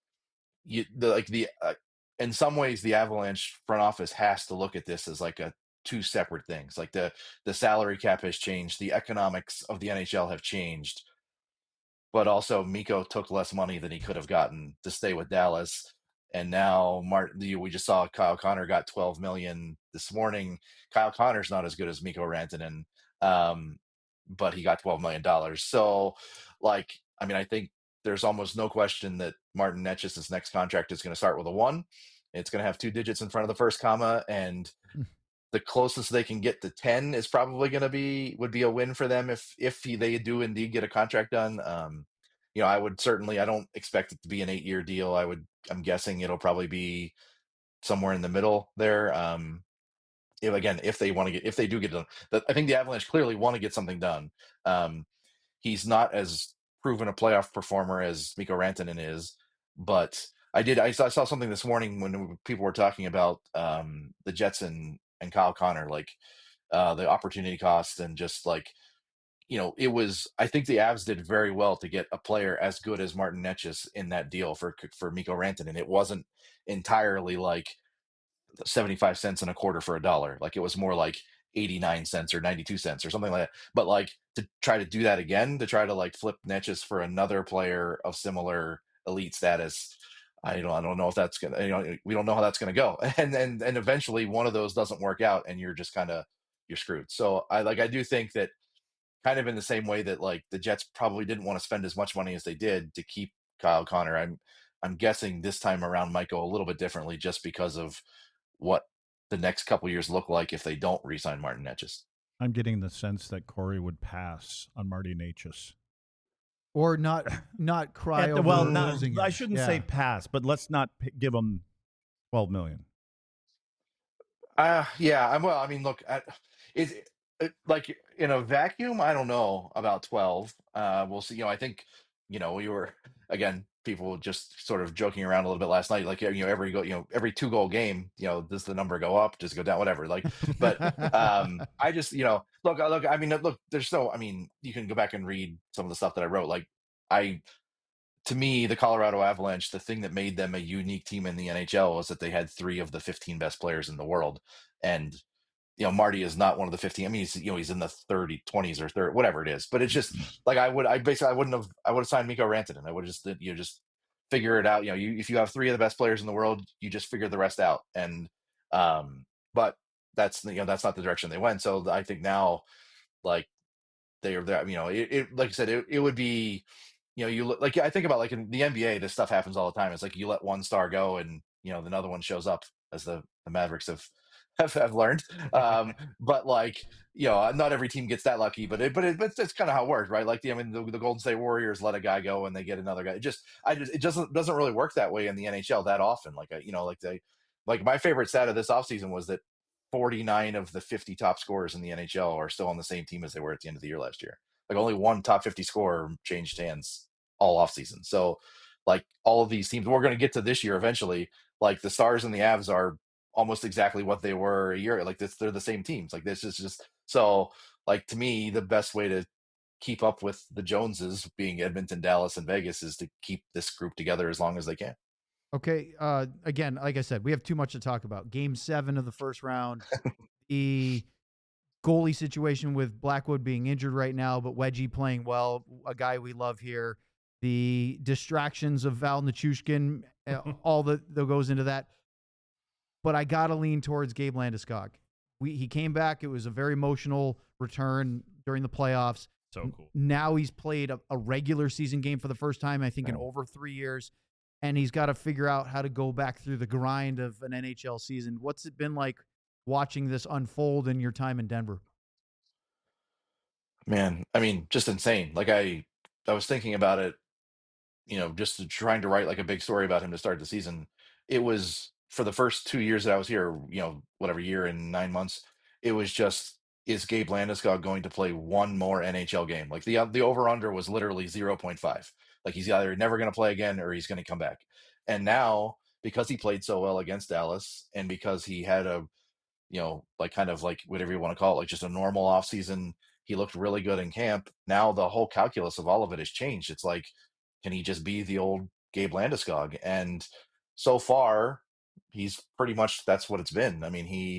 in some ways, the Avalanche front office has to look at this as like two separate things. Like the salary cap has changed, the economics of the NHL have changed, but also Miko took less money than he could have gotten to stay with Dallas. And now we just saw Kyle Connor got $12 million this morning. Kyle Connor's not as good as Miko Rantanen, but he got $12 million. So, like, I mean, I think there's almost no question that Martin Necas' next contract is going to start with a 1. It's going to have 2 digits in front of the first comma, and the closest they can get to 10 is probably would be a win for them if they do indeed get a contract done. I don't expect it to be an 8-year deal. I'm guessing it'll probably be somewhere in the middle there. If they do get it done, I think the Avalanche clearly want to get something done. He's not as proven a playoff performer as Miko Rantanen is, but I saw something this morning when people were talking about the Jets and Kyle Connor, like the opportunity cost and just like, I think the Avs did very well to get a player as good as Martin Necas in that deal for Miko Rantanen. It wasn't entirely like 75 cents and a quarter for $1. Like it was more like 89 cents or 92 cents or something like that. But like to try to do that again, to try to like flip Necas for another player of similar elite status, I don't know if that's gonna, we don't know how that's gonna go. And eventually one of those doesn't work out and you're just you're screwed. So I do think that kind of in the same way that like the Jets probably didn't want to spend as much money as they did to keep Kyle Connor. I'm guessing this time around might go a little bit differently just because of what the next couple years look like if they don't re-sign Martin Necas. I'm getting the sense that Corey would pass on Marty Necas. Or not cry over losing I him. shouldn't Yeah. say pass, but let's not give him $12 million. Yeah. I mean, look, like in a vacuum, I don't know about 12. We'll see. I think we were again people just sort of joking around a little bit last night, like, every every 2-goal game, does the number go up, does it go down, whatever, like, but I just, look, I mean, look, I mean, you can go back and read some of the stuff that I wrote. Like, I to me, the Colorado Avalanche, the thing that made them a unique team in the NHL was that they had 3 of the 15 best players in the world. And Marty is not one of the 15. I mean, he's in the 20s or 30, whatever it is. But it's just like I would have signed Mikko Rantanen. I would have just figure it out. If you have 3 of the best players in the world, you just figure the rest out. And but that's that's not the direction they went. So I think now, like, they are there. Like I said, it would be, you look like, I think about, like, in the NBA, this stuff happens all the time. It's like you let one star go, and another one shows up, as the Mavericks have learned. But, like, not every team gets that lucky, but it's kind of how it works, right? Like, the Golden State Warriors let a guy go and they get another guy. It doesn't really work that way in the NHL that often. Like my favorite stat of this offseason was that 49 of the 50 top scorers in the NHL are still on the same team as they were at the end of the year last year. Like, only one top 50 scorer changed hands all offseason. So, like, all of these teams, we're going to get to this year eventually. Like, the Stars and the Avs are almost exactly what they were a year. Like, they're the same teams. Like, this is just so. Like, to me, the best way to keep up with the Joneses, being Edmonton, Dallas, and Vegas, is to keep this group together as long as they can. Okay. Again, like I said, we have too much to talk about. Game 7 of the first round, the goalie situation with Blackwood being injured right now, but Wedgie playing well, a guy we love here. The distractions of Val Nichushkin, all that goes into that. But I got to lean towards Gabe Landeskog. He came back. It was a very emotional return during the playoffs. So cool. Now he's played a regular season game for the first time, I think, in over 3 years. And he's got to figure out how to go back through the grind of an NHL season. What's it been like watching this unfold in your time in Denver? Man, I mean, just insane. Like, I was thinking about it, just trying to write, like, a big story about him to start the season. It was, for the first 2 years that I was here, whatever, year and 9 months, it was just, is Gabe Landeskog going to play one more NHL game? Like, the over under was literally 0.5. Like, he's either never going to play again or he's going to come back. And now, because he played so well against Dallas, and because he had a, like, kind of, like, whatever you want to call it, like, just a normal offseason, he looked really good in camp. Now the whole calculus of all of it has changed. It's like, can he just be the old Gabe Landeskog? And so far, he's pretty much, that's what it's been. I mean, he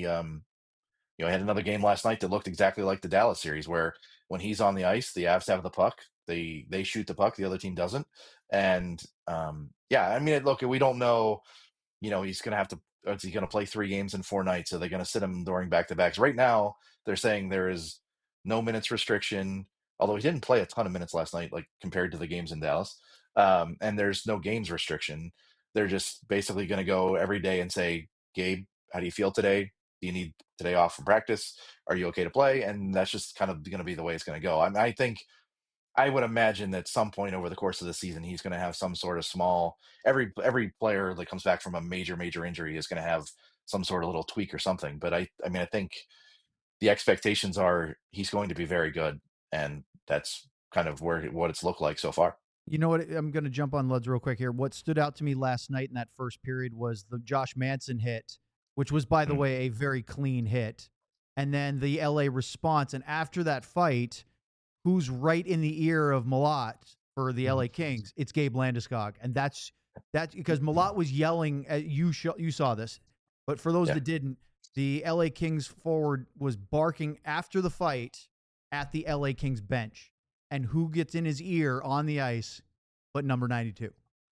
had another game last night that looked exactly like the Dallas series, where when he's on the ice, the Avs have the puck, they shoot the puck, the other team doesn't. And yeah, I mean, look, we don't know. He's going to have to. Is he going to play 3 games in 4 nights? Are they going to sit him during back-to-backs? Right now, they're saying there is no minutes restriction, although he didn't play a ton of minutes last night, like, compared to the games in Dallas. And there's no games restriction. They're just basically going to go every day and say, Gabe, how do you feel today? Do you need today off from practice? Are you okay to play? And that's just kind of going to be the way it's going to go. I mean, I think, I would imagine that at some point over the course of the season, he's going to have some sort of small. Every player that comes back from a major injury is going to have some sort of little tweak or something. But I mean, I think the expectations are he's going to be very good, and that's kind of what it's looked like so far. You know what? I'm going to jump on Luds real quick here. What stood out to me last night in that first period was the Josh Manson hit, which was, by the way, a very clean hit, and then the LA response. And after that fight, who's right in the ear of Malat for the LA Kings? It's Gabe Landeskog. And that's because Malat was yelling at you saw this. But for those that didn't, the LA Kings forward was barking after the fight at the LA Kings bench. And who gets in his ear on the ice but number 92?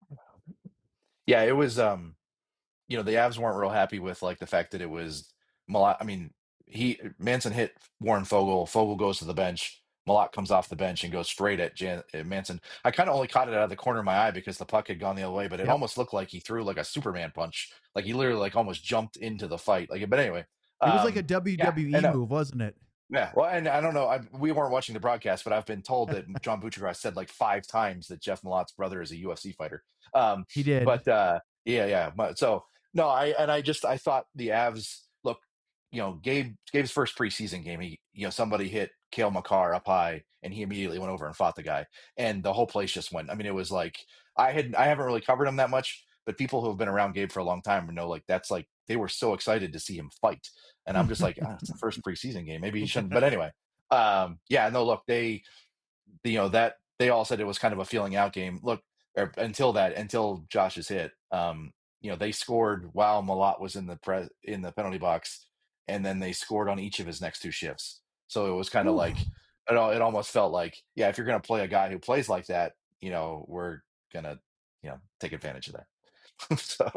Yeah, it was the Avs weren't real happy with, like, the fact that it was Malat. I mean, Manson hit Warren Fogle. Fogle goes to the bench. Malat comes off the bench and goes straight at Manson. I kind of only caught it out of the corner of my eye because the puck had gone the other way, but it almost looked like he threw, like, a Superman punch. Like, he literally, like, almost jumped into the fight. Like, but anyway, it was like a WWE move, wasn't it? Yeah. Well, and I don't know. We weren't watching the broadcast, but I've been told that John Buccigross said like 5 times that Jeff Malat's brother is a UFC fighter. He did. But yeah. So no, I thought the Avs, look, Gabe's first preseason game, somebody hit Cale Makar up high, and he immediately went over and fought the guy, and the whole place just went. I mean, it was like, I haven't really covered him that much, but people who have been around Gabe for a long time know like that's like they were so excited to see him fight, and I'm just like, it's the first preseason game, maybe he shouldn't. But anyway, yeah, no, look, that they all said it was kind of a feeling out game. Look, until Josh's hit, they scored while Malott was in the penalty box, and then they scored on each of his next two shifts. So it was kind of like it almost felt like, yeah, if you're going to play a guy who plays like that, we're gonna take advantage of that. So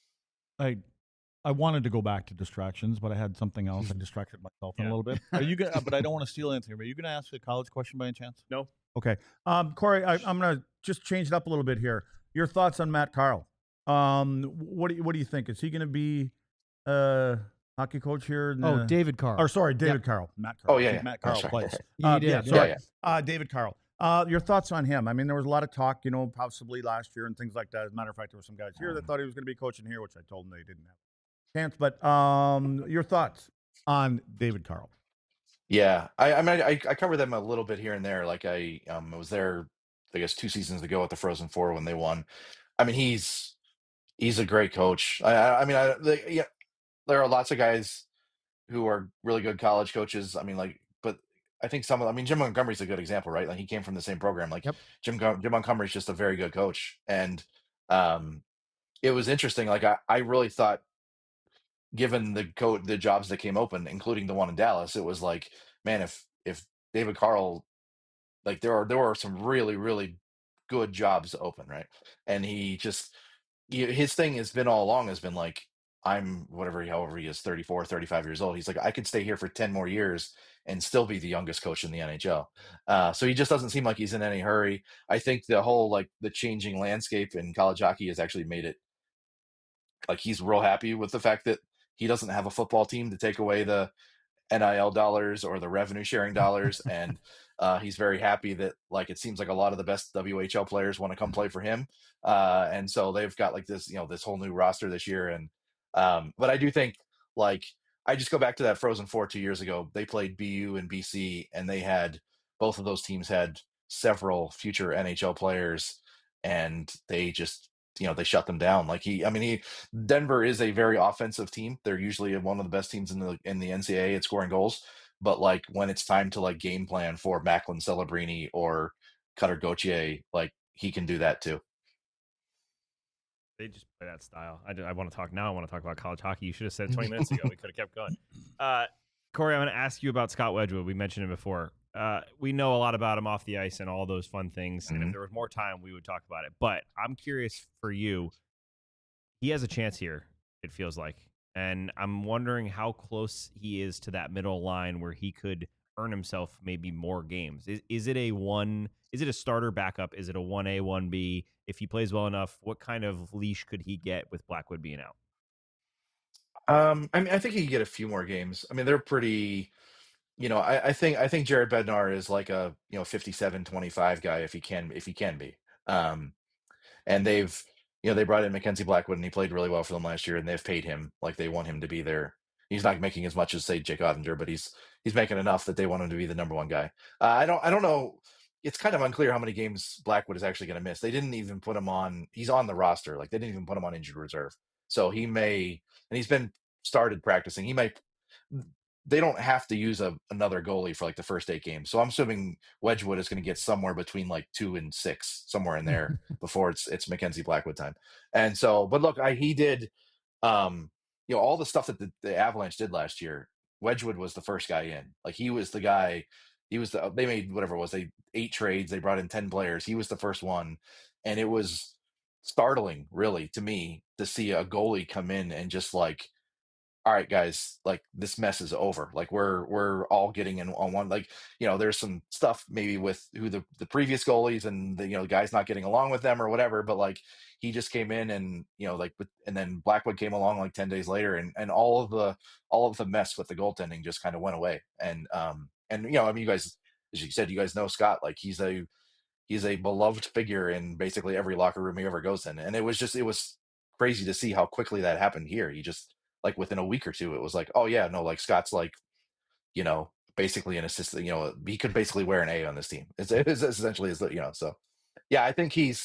I wanted to go back to distractions, but I had something else. I distracted myself in a little bit. Are you gonna? But I don't want to steal anything. Are you going to ask a college question by any chance? No. Okay. Corey, I'm going to just change it up a little bit here. Your thoughts on Matt Carle? What do you think? Is he going to be hockey coach here? David Carle. Or sorry, David Carle. Matt Carle. Oh, yeah. Matt Carle plays. You did, Yeah, yeah. sorry. David Carle. Your thoughts on him? I mean, there was a lot of talk, possibly last year and things like that. As a matter of fact, there were some guys here that thought he was going to be coaching here, which I told them they didn't have a chance. But your thoughts on David Carle? Yeah, I cover them a little bit here and there. Like I was there, I guess 2 seasons ago at the Frozen Four when they won. I mean, he's a great coach. Yeah, there are lots of guys who are really good college coaches. I mean, but I think Jim Montgomery's a good example, right? Like he came from the same program. Like Yep. Jim Montgomery's just a very good coach, and it was interesting. Like I really thought, given the jobs that came open, including the one in Dallas, it was like, man, if David Carle, like there are some really really good jobs open, right? And he just his thing has been all along has been like, I'm however he is, 34, 35 years old. He's like, I could stay here for 10 more years and still be the youngest coach in the NHL. So he just doesn't seem like he's in any hurry. I think the whole the changing landscape in college hockey has actually made it like he's real happy with the fact that he doesn't have a football team to take away the NIL dollars or the revenue sharing dollars. And he's very happy that it seems like a lot of the best WHL players want to come play for him. And so they've got this whole new roster this year. And but I do think I just go back to that Frozen Four 2 years ago. They played BU and BC, and both of those teams had several future NHL players, and they just they shut them down. Denver is a very offensive team. They're usually one of the best teams in the NCAA at scoring goals. But when it's time to game plan for Macklin Celebrini or Cutter Gauthier, he can do that too. They just play that style. I want to talk now. I want to talk about college hockey. You should have said 20 minutes ago. We could have kept going. Corey, I'm going to ask you about Scott Wedgwood. We mentioned him before. We know a lot about him off the ice and all those fun things. And if there was more time, we would talk about it. But I'm curious for you. He has a chance here, it feels like. And I'm wondering how close he is to that middle line where he could earn himself maybe more games. Is it a starter backup? Is it a 1A, 1B? If he plays well enough, what kind of leash could he get with Blackwood being out? I think he could get a few more games. I mean, they're pretty, I think Jared Bednar is like a 57-25 guy if he can be. And they brought in Mackenzie Blackwood, and he played really well for them last year, and they've paid him like they want him to be there. He's not making as much as say Jake Ottinger, but he's making enough that they want him to be the number one guy. I don't know. It's kind of unclear how many games Blackwood is actually going to miss. They didn't even put him on. He's on the roster. They didn't even put him on injured reserve. So he may, and he's been started practicing. He might. They don't have to use another goalie for the first 8 games. So I'm assuming Wedgwood is going to get somewhere between 2 and 6, somewhere in there before it's Mackenzie Blackwood time. And so, but look, he did, all the stuff that the Avalanche did last year. Wedgwood was the first guy in. He was the guy. They made whatever it was. 8 trades. They brought in 10 players. He was the first one, and it was startling, really, to me, to see a goalie come in and just all right, guys, this mess is over. We're all getting in on one. There's some stuff maybe with who the previous goalies and the guys not getting along with them or whatever. But he just came in and and then Blackwood came along 10 days later, and all of the mess with the goaltending just kind of went away. And you guys, as you said, you guys know Scott. He's a beloved figure in basically every locker room he ever goes in, and it was crazy to see how quickly that happened here. He just within a week or two, it was oh yeah, no, Scott's basically an assistant. He could basically wear an A on this team. It's essentially so yeah, I think he's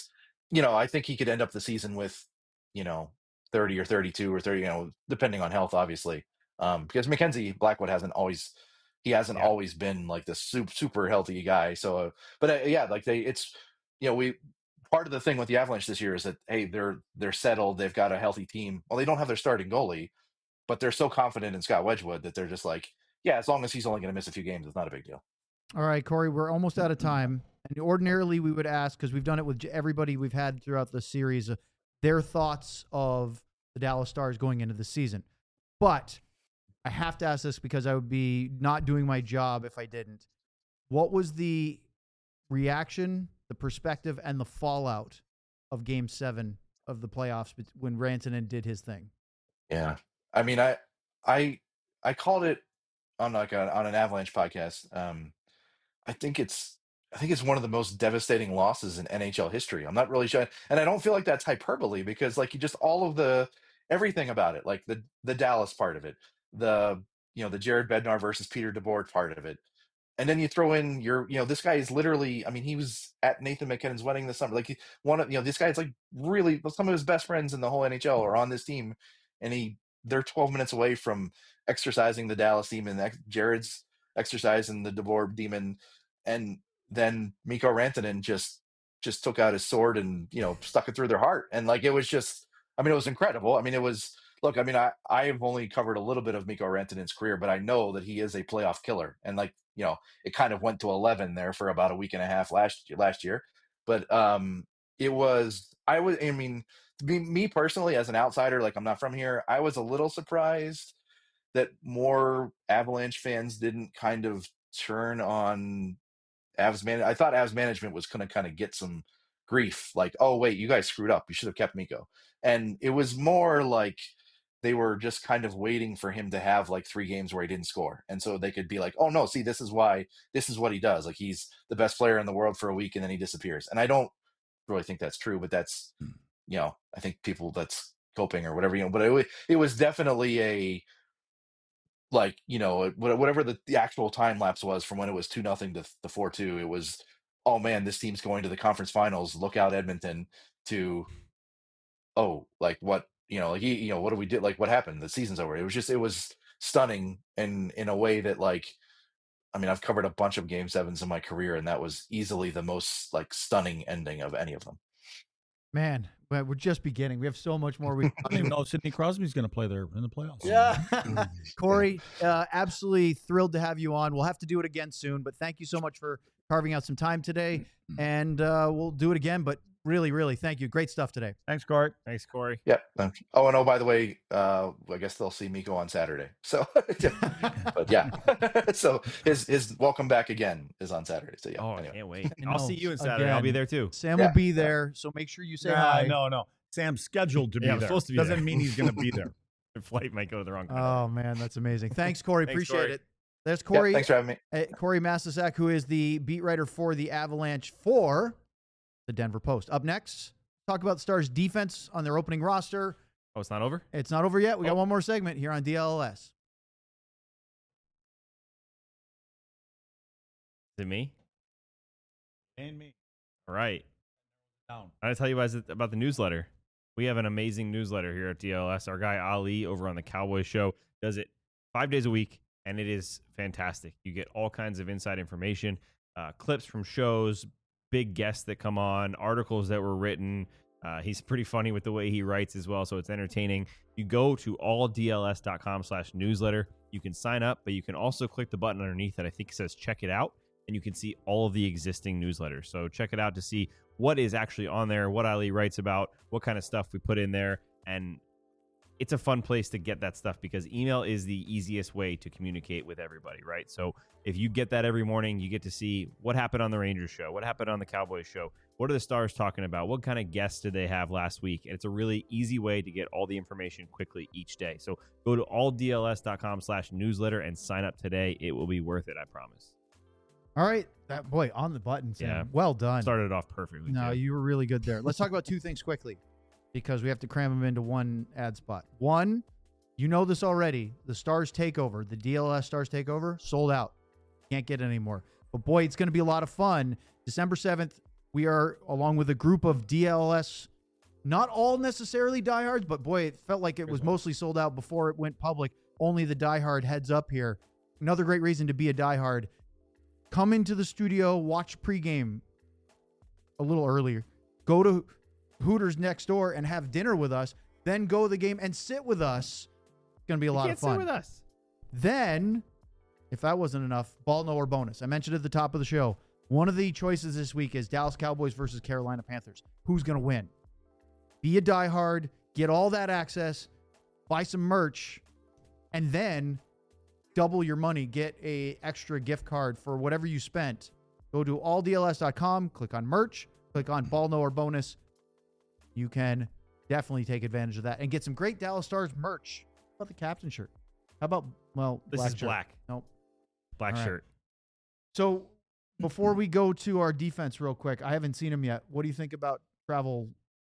I think he could end up the season with, 30 or 32 or 30, depending on health, obviously. Because Mackenzie Blackwood hasn't always been like this super healthy guy. So, but yeah, like it's, we part of the thing with the Avalanche this year is that, hey, they're settled. They've got a healthy team. Well, they don't have their starting goalie, but they're so confident in Scott Wedgwood that they're just like, yeah, as long as he's only going to miss a few games, it's not a big deal. All right, Corey, we're almost out of time. And ordinarily we would ask, because we've done it with everybody we've had throughout the series, their thoughts of the Dallas Stars going into the season. But I have to ask this because I would be not doing my job if I didn't. What was the reaction, the perspective, and the fallout of Game 7 of the playoffs when Rantanen did his thing? Yeah. I mean, I called it on on an Avalanche podcast. I think it's one of the most devastating losses in NHL history. I'm not really sure, and I don't feel like that's hyperbole because like you just all of everything about it, like the Dallas part of it, the the Jared Bednar versus Peter DeBoer part of it, and then you throw in this guy is literally, I mean, he was at Nathan McKinnon's wedding this summer. Like this guy is like really some of his best friends in the whole NHL are on this team, and they're 12 minutes away from exercising the Dallas demon. Jared's exercising the DeBoer demon, and then Mikko Rantanen just took out his sword and stuck it through their heart, and like it was just, I mean, it was incredible. I mean, it was. Look, I mean, I've only covered a little bit of Mikko Rantanen's career, but I know that he is a playoff killer, and like it kind of went to 11 there for about a week and a half last year. But I mean, me personally as an outsider, like I'm not from here, I was a little surprised that more Avalanche fans didn't kind of turn on Avs man. I thought Avs management was going to kind of get some grief, like, oh wait, you guys screwed up, you should have kept Mikko. And it was more like they were just kind of waiting for him to have like 3 games where he didn't score, and so they could be like, oh no, see, this is what he does. Like he's the best player in the world for a week and then he disappears. And I don't really think that's true, but that's I think people, that's coping or whatever, but it was definitely a, like, whatever the actual time lapse was from when it was 2-0 to the 4-2, it was, oh man, this team's going to the conference finals, look out Edmonton, to, oh, like what, like what do we do, like what happened, the season's over. It was stunning, and in a way that, like, I mean, I've covered a bunch of Game 7s in my career, and that was easily the most like stunning ending of any of them. Man, we're just beginning. We have so much more. I don't even know Sidney Crosby's going to play there in the playoffs. Yeah. Corey, absolutely thrilled to have you on. We'll have to do it again soon, but thank you so much for carving out some time today. And we'll do it again, but really, really thank you. Great stuff today. Thanks, Corey. Thanks, Corey. Yeah. Oh, and by the way, I guess they'll see Mikko on Saturday. So, but yeah. So his welcome back again is on Saturday. So yeah. Oh, anyway. I can't wait. I I'll know. see you on Saturday. Again. I'll be there too. Sam will be there, so make sure you say hi. No. Sam's scheduled to be Yeah, I'm there. supposed to be Doesn't there. mean he's going to be there. Your flight might go to the wrong country. Oh, man, that's amazing. Thanks, Corey. Thanks, Appreciate Corey. it. There's Yeah, Corey. thanks for having me. Corey Masisak, who is the beat writer for the Avalanche for the Denver Post. Up next, talk about the Stars' defense on their opening roster. Oh, it's not over? It's not over yet. We got one more segment here on DLS. Is it me? And me. All right. Down. I gotta tell you guys about the newsletter. We have an amazing newsletter here at DLS. Our guy Ali over on the Cowboys Show does it 5 days a week, and it is fantastic. You get all kinds of inside information, clips from shows, big guests that come on, articles that were written. He's pretty funny with the way he writes as well, so it's entertaining. You go to alldls.com/newsletter. You can sign up, but you can also click the button underneath that I think says check it out, and you can see all of the existing newsletters. So check it out to see what is actually on there, what Ali writes about, what kind of stuff we put in there. And it's a fun place to get that stuff because email is the easiest way to communicate with everybody, right? So if you get that every morning, you get to see what happened on the Rangers show, what happened on the Cowboys show, what are the Stars talking about, what kind of guests did they have last week? And it's a really easy way to get all the information quickly each day. So go to alldls.com/newsletter and sign up today. It will be worth it, I promise. All right. That boy on the button, Sam. Yeah. Well done. Started it off perfectly. No, too. you were really good there. Let's talk about two things quickly because we have to cram them into one ad spot. One, you know this already. The Stars Takeover, the DLS Stars Takeover, sold out. Can't get it anymore. But boy, it's going to be a lot of fun. December 7th, we are, along with a group of DLS, not all necessarily diehards, but boy, it felt like it was mostly sold out before it went public. Only the diehard heads up here. Another great reason to be a diehard. Come into the studio, watch pregame a little earlier. Go to Hooters next door and have dinner with us. Then go to the game and sit with us. It's going to be a lot of fun. Sit with us. Then, if that wasn't enough, ball no or bonus. I mentioned at the top of the show, one of the choices this week is Dallas Cowboys versus Carolina Panthers. Who's going to win? Be a diehard, get all that access, buy some merch, and then double your money. Get a extra gift card for whatever you spent. Go to alldls.com, click on merch, click on ball no or bonus. You can definitely take advantage of that and get some great Dallas Stars merch. How about the captain shirt? How about, well, This black is shirt? black. Nope. Black All right. shirt. So before we go to our defense real quick, I haven't seen him yet. What do you think about travel?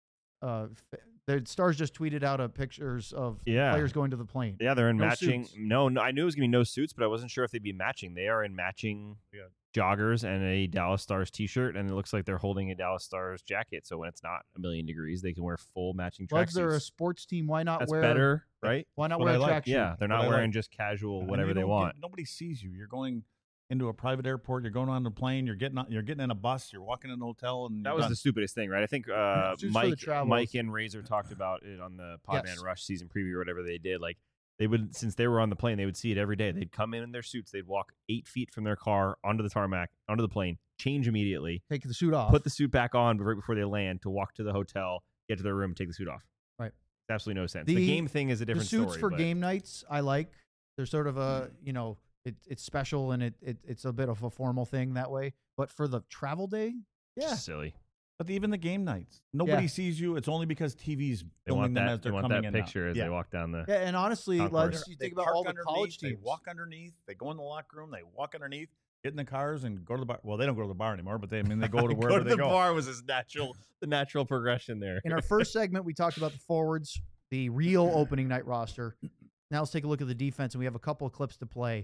The Stars just tweeted out pictures of players going to the plane. Yeah, they're in No matching. suits. No, I knew it was going to be no suits, but I wasn't sure if they'd be matching. They are in matching joggers and a Dallas Stars t-shirt, and it looks like they're holding a Dallas Stars jacket. So when it's not 1,000,000 degrees, they can wear full matching Plugs are a tracksuits. sports team. Why not That's wear better, right? Why not What wear I a like. tracksuit? Yeah, they're What not I wearing like. just casual And whatever you they don't want. nobody sees you. You're going into a private airport. You're going on a plane. You're getting in a bus. You're walking in a hotel, and That you're was done. the stupidest thing, right? I think Suits for the Mike travels. and Razor talked about it on the Podman Yes. Rush season preview or whatever they did. Like they would, since they were on the plane, they would see it every day. They'd come in their suits. They'd walk 8 feet from their car onto the tarmac, onto the plane, change immediately, Take the suit off. put the suit back on right before they land to walk to the hotel, get to their room, take the suit off. Right. Absolutely no sense. The- The game thing is a the different suits story. for but game nights. I like. They're sort of a it's special and it's a bit of a formal thing that way. But for the travel day, yeah, just silly. But even the game nights, nobody sees you. It's only because TV's They filming want them that. as They they're want coming that in. picture now. as Yeah. they walk down the. yeah. And honestly, Concourse. you They think about park all the underneath, college They teams. walk underneath. They go in the locker room. They walk underneath, get in the cars, and go to the bar. Well, they don't go to the bar anymore, but they go to wherever they the go. bar was the natural progression there. In our first segment, we talked about the forwards, the real opening night roster. Now let's take a look at the defense, and we have a couple of clips to play.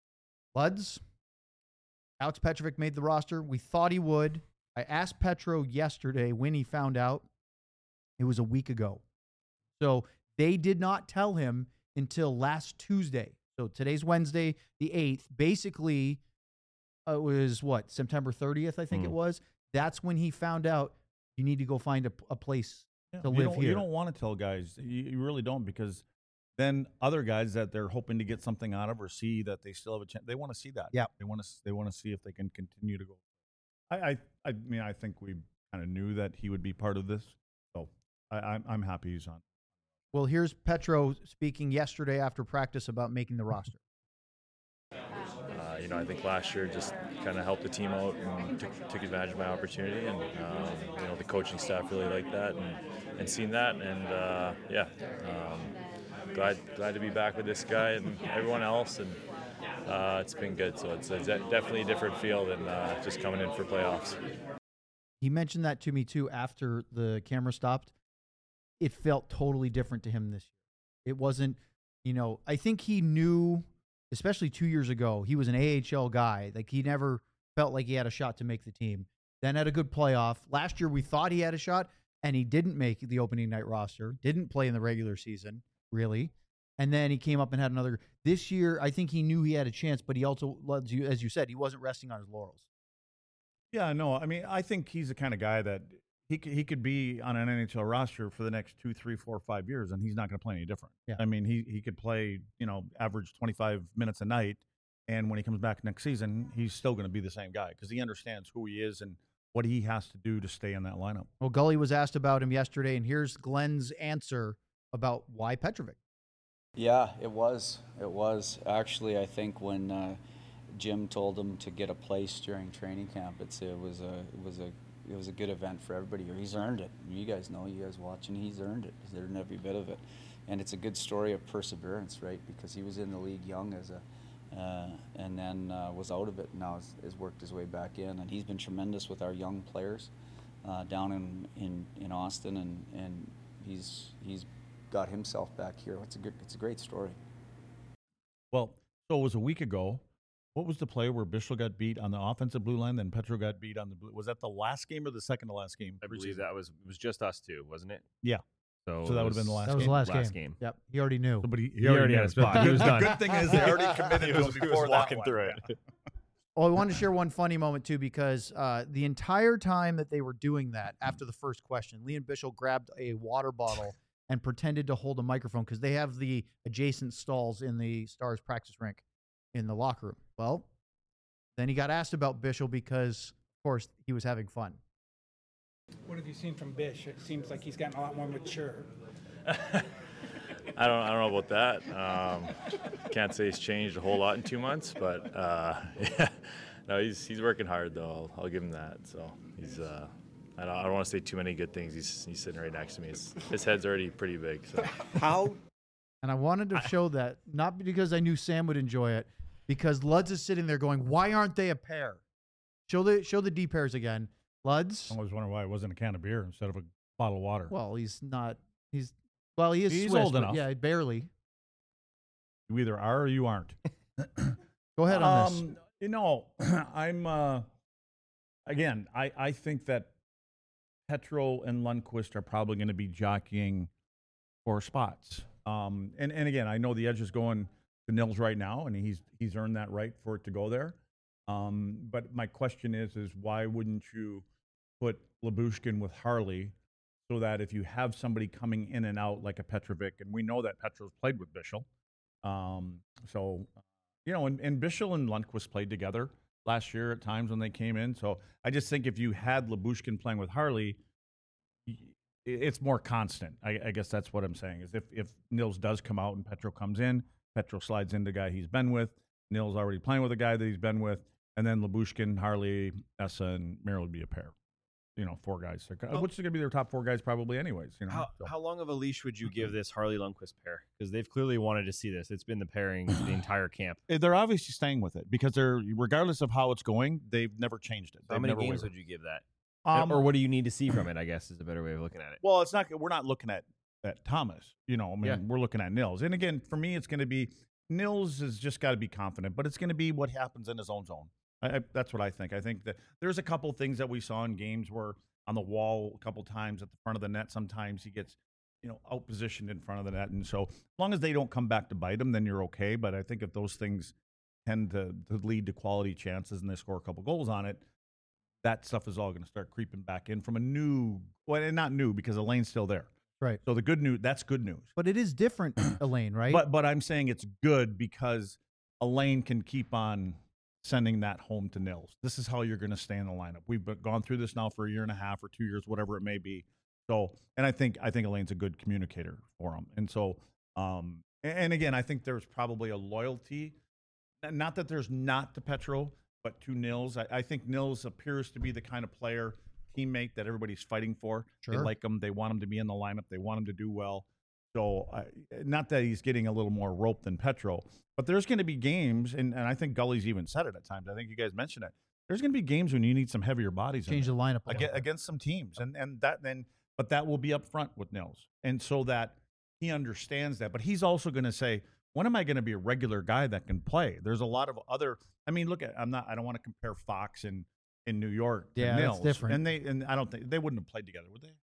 Luds, Alex Petrovic made the roster. We thought he would. I asked Petro yesterday when he found out. It was a week ago. So they did not tell him until last Tuesday. So today's Wednesday, the 8th. Basically, it was September 30th, I think it was. That's when he found out you need to go find a place Yeah, to you live don't- here. You don't want to tell guys. You really don't, because then other guys that they're hoping to get something out of or see that they still have a chance, they want to see that. Yeah. They want to see if they can continue to go. I mean, I think we kind of knew that he would be part of this, so I'm happy he's on. Well, here's Petro speaking yesterday after practice about making the roster. I think last year just kind of helped the team out and took advantage of my opportunity, and the coaching staff really liked that and seen that, and glad to be back with this guy and everyone else, and it's been good. So it's definitely a different feel than just coming in for playoffs. He mentioned that to me too after the camera stopped. It felt totally different to him this year. It wasn't, I think he knew, especially 2 years ago, he was an AHL guy. Like he never felt like he had a shot to make the team. Then had a good playoff. Last year we thought he had a shot, and he didn't make the opening night roster. Didn't play in the regular season, really. And then he came up and had another. This year, I think he knew he had a chance, but he also, as you said, he wasn't resting on his laurels. Yeah, no, I mean, I think he's the kind of guy that he could be on an NHL roster for the next 2, 3, 4, 5 years, and he's not going to play any different. Yeah. I mean, he could play, average 25 minutes a night, and when he comes back next season, he's still going to be the same guy because he understands who he is and what he has to do to stay in that lineup. Well, Gully was asked about him yesterday, and here's Glenn's answer about why Petrovic. Yeah, it was. It was. Actually, I think when Jim told him to get a place during training camp, it was a good event for everybody here. He's earned it. You guys know, you guys watching, he's earned it. He's earned every bit of it. And it's a good story of perseverance, right? Because he was in the league young and then was out of it, and now has worked his way back in. And he's been tremendous with our young players down in Austin, and he's got himself back here. It's a great story. Well, so it was a week ago. What was the play where Bischel got beat on the offensive blue line, then Petro got beat on the blue? Was that the last game or the second to last game? I believe that was just us two, wasn't it? Yeah. So that would have been the last That was game. the last game. Yep. He already knew. But He already had his spot. He was done. Good thing is they already committed to him He before was walking through it. Well, I wanted to share one funny moment, too, because the entire time that they were doing that, after the first question, Liam Bischel grabbed a water bottle and pretended to hold a microphone because they have the adjacent stalls in the Stars practice rink in the locker room. Well, then he got asked about Bischel because, of course, he was having fun. What have you seen from Bish? It seems like he's gotten a lot more mature. I don't know about that. Can't say he's changed a whole lot in 2 months, but yeah, no, he's working hard though. I'll give him that. So he's I don't want to say too many good things. He's sitting right next to me. His head's already pretty big. So And I wanted to show that, not because I knew Sam would enjoy it, because Luds is sitting there going, "Why aren't they a pair?" Show the D pairs again. Luds. I was wondering why it wasn't a can of beer instead of a bottle of water. Well, he's not. He is He's Swiss, old but enough. yeah, barely. You either are or you aren't. Go ahead on this. You know, I'm again. I think that Petro and Lundqvist are probably going to be jockeying for spots. And again, I know the edge is going to Nils right now, and he's earned that right for it to go there. But my question is why wouldn't you put Lyubushkin with Harley, so that if you have somebody coming in and out like a Petrovic, and we know that Petro's played with Bischel, so you know, and Bischel and Lundqvist played together last year at times when they came in. So I just think if you had Lyubushkin playing with Harley, it's more constant. I guess that's what I'm saying, is if Nils does come out and Petro comes in, Petro slides into the guy he's been with, Nils already playing with a guy that he's been with, and then Lyubushkin, Harley, Essa, and Merrill would be a pair. You know, 4 guys, which is going to be their top 4 guys probably anyways. You know, How long of a leash would you give this Harley Lundqvist pair? Because they've clearly wanted to see this. It's been the pairing the entire camp. They're obviously staying with it because they're, regardless of how it's going, they've never changed it. How many games would you give that? Um, Or what do you need to see from it, I guess, is a better way of looking at it. Well, it's not. We're not looking at Thomas. You know, I mean, Yeah. we're looking at Nils. And again, for me, it's going to be Nils has just got to be confident, but it's going to be what happens in his own zone. That's what I think. I think that there's a couple things that we saw in games where on the wall a couple times at the front of the net, sometimes he gets, you know, out positioned in front of the net. And so as long as they don't come back to bite him, then you're okay. But I think if those things tend to lead to quality chances and they score a couple goals on it, that stuff is all going to start creeping back in from a new, well, and not new because Elaine's still there. Right. So the good news, that's good news. But it is different, Elaine, right? But I'm saying it's good because Elaine can keep on sending that home to Nils. This is how you're going to stay in the lineup. We've gone through this now for a year and a half or 2 years, whatever it may be. So, and I think Elaine's a good communicator for him. And so, and again, I think there's probably a loyalty, not that there's not to Petro, but to Nils. I think Nils appears to be the kind of player, teammate that everybody's fighting for. They Sure. like him. They want him to be in the lineup. They want him to do well. So, not that he's getting a little more rope than Petro, but there's going to be games, and I think Gully's even said it at times. I think you guys mentioned it. There's going to be games when you need some heavier bodies Change in the lineup a little bit. against some teams, but that will be up front with Nils, and so that he understands that. But he's also going to say, when am I going to be a regular guy that can play? There's a lot of other. I mean, look at I don't want to compare Fox in New York to Yeah, that's Nils, different. and I don't think they wouldn't have played together, would they?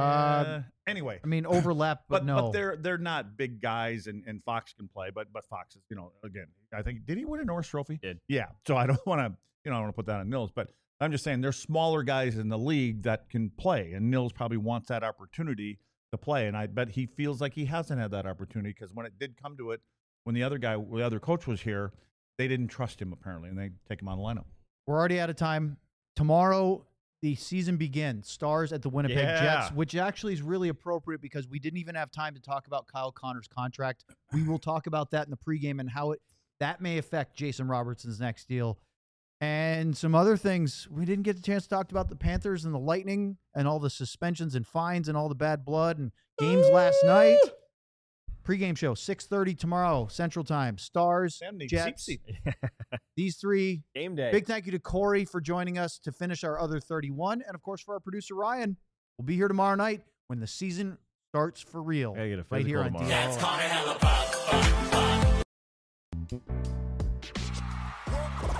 Anyway, I mean, overlap, but no. But they're not big guys, and Fox can play, but Fox is, you know, again, I think, did he win a Norris Trophy? Did. Yeah. So I don't want to, I don't want to put that on Nils, but I'm just saying there's smaller guys in the league that can play, and Nils probably wants that opportunity to play, and I bet he feels like he hasn't had that opportunity because when it did come to it, when the other coach was here, they didn't trust him apparently, and they take him out of the lineup. We're already out of time. Tomorrow, the season begins. Stars at the Winnipeg Jets, which actually is really appropriate because we didn't even have time to talk about Kyle Connor's contract. We will talk about that in the pregame and how that may affect Jason Robertson's next deal. And some other things. We didn't get the chance to talk about the Panthers and the Lightning and all the suspensions and fines and all the bad blood and games last night. Pregame show, 6:30 tomorrow, Central Time. Stars, Jets. These three. Game day. Big thank you to Corey for joining us to finish our other 31. And, of course, for our producer, Ryan. We'll be here tomorrow night when the season starts for real. I get a right here on physical DLL. That's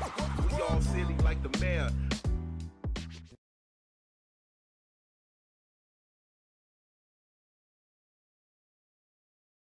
all silly like the mayor.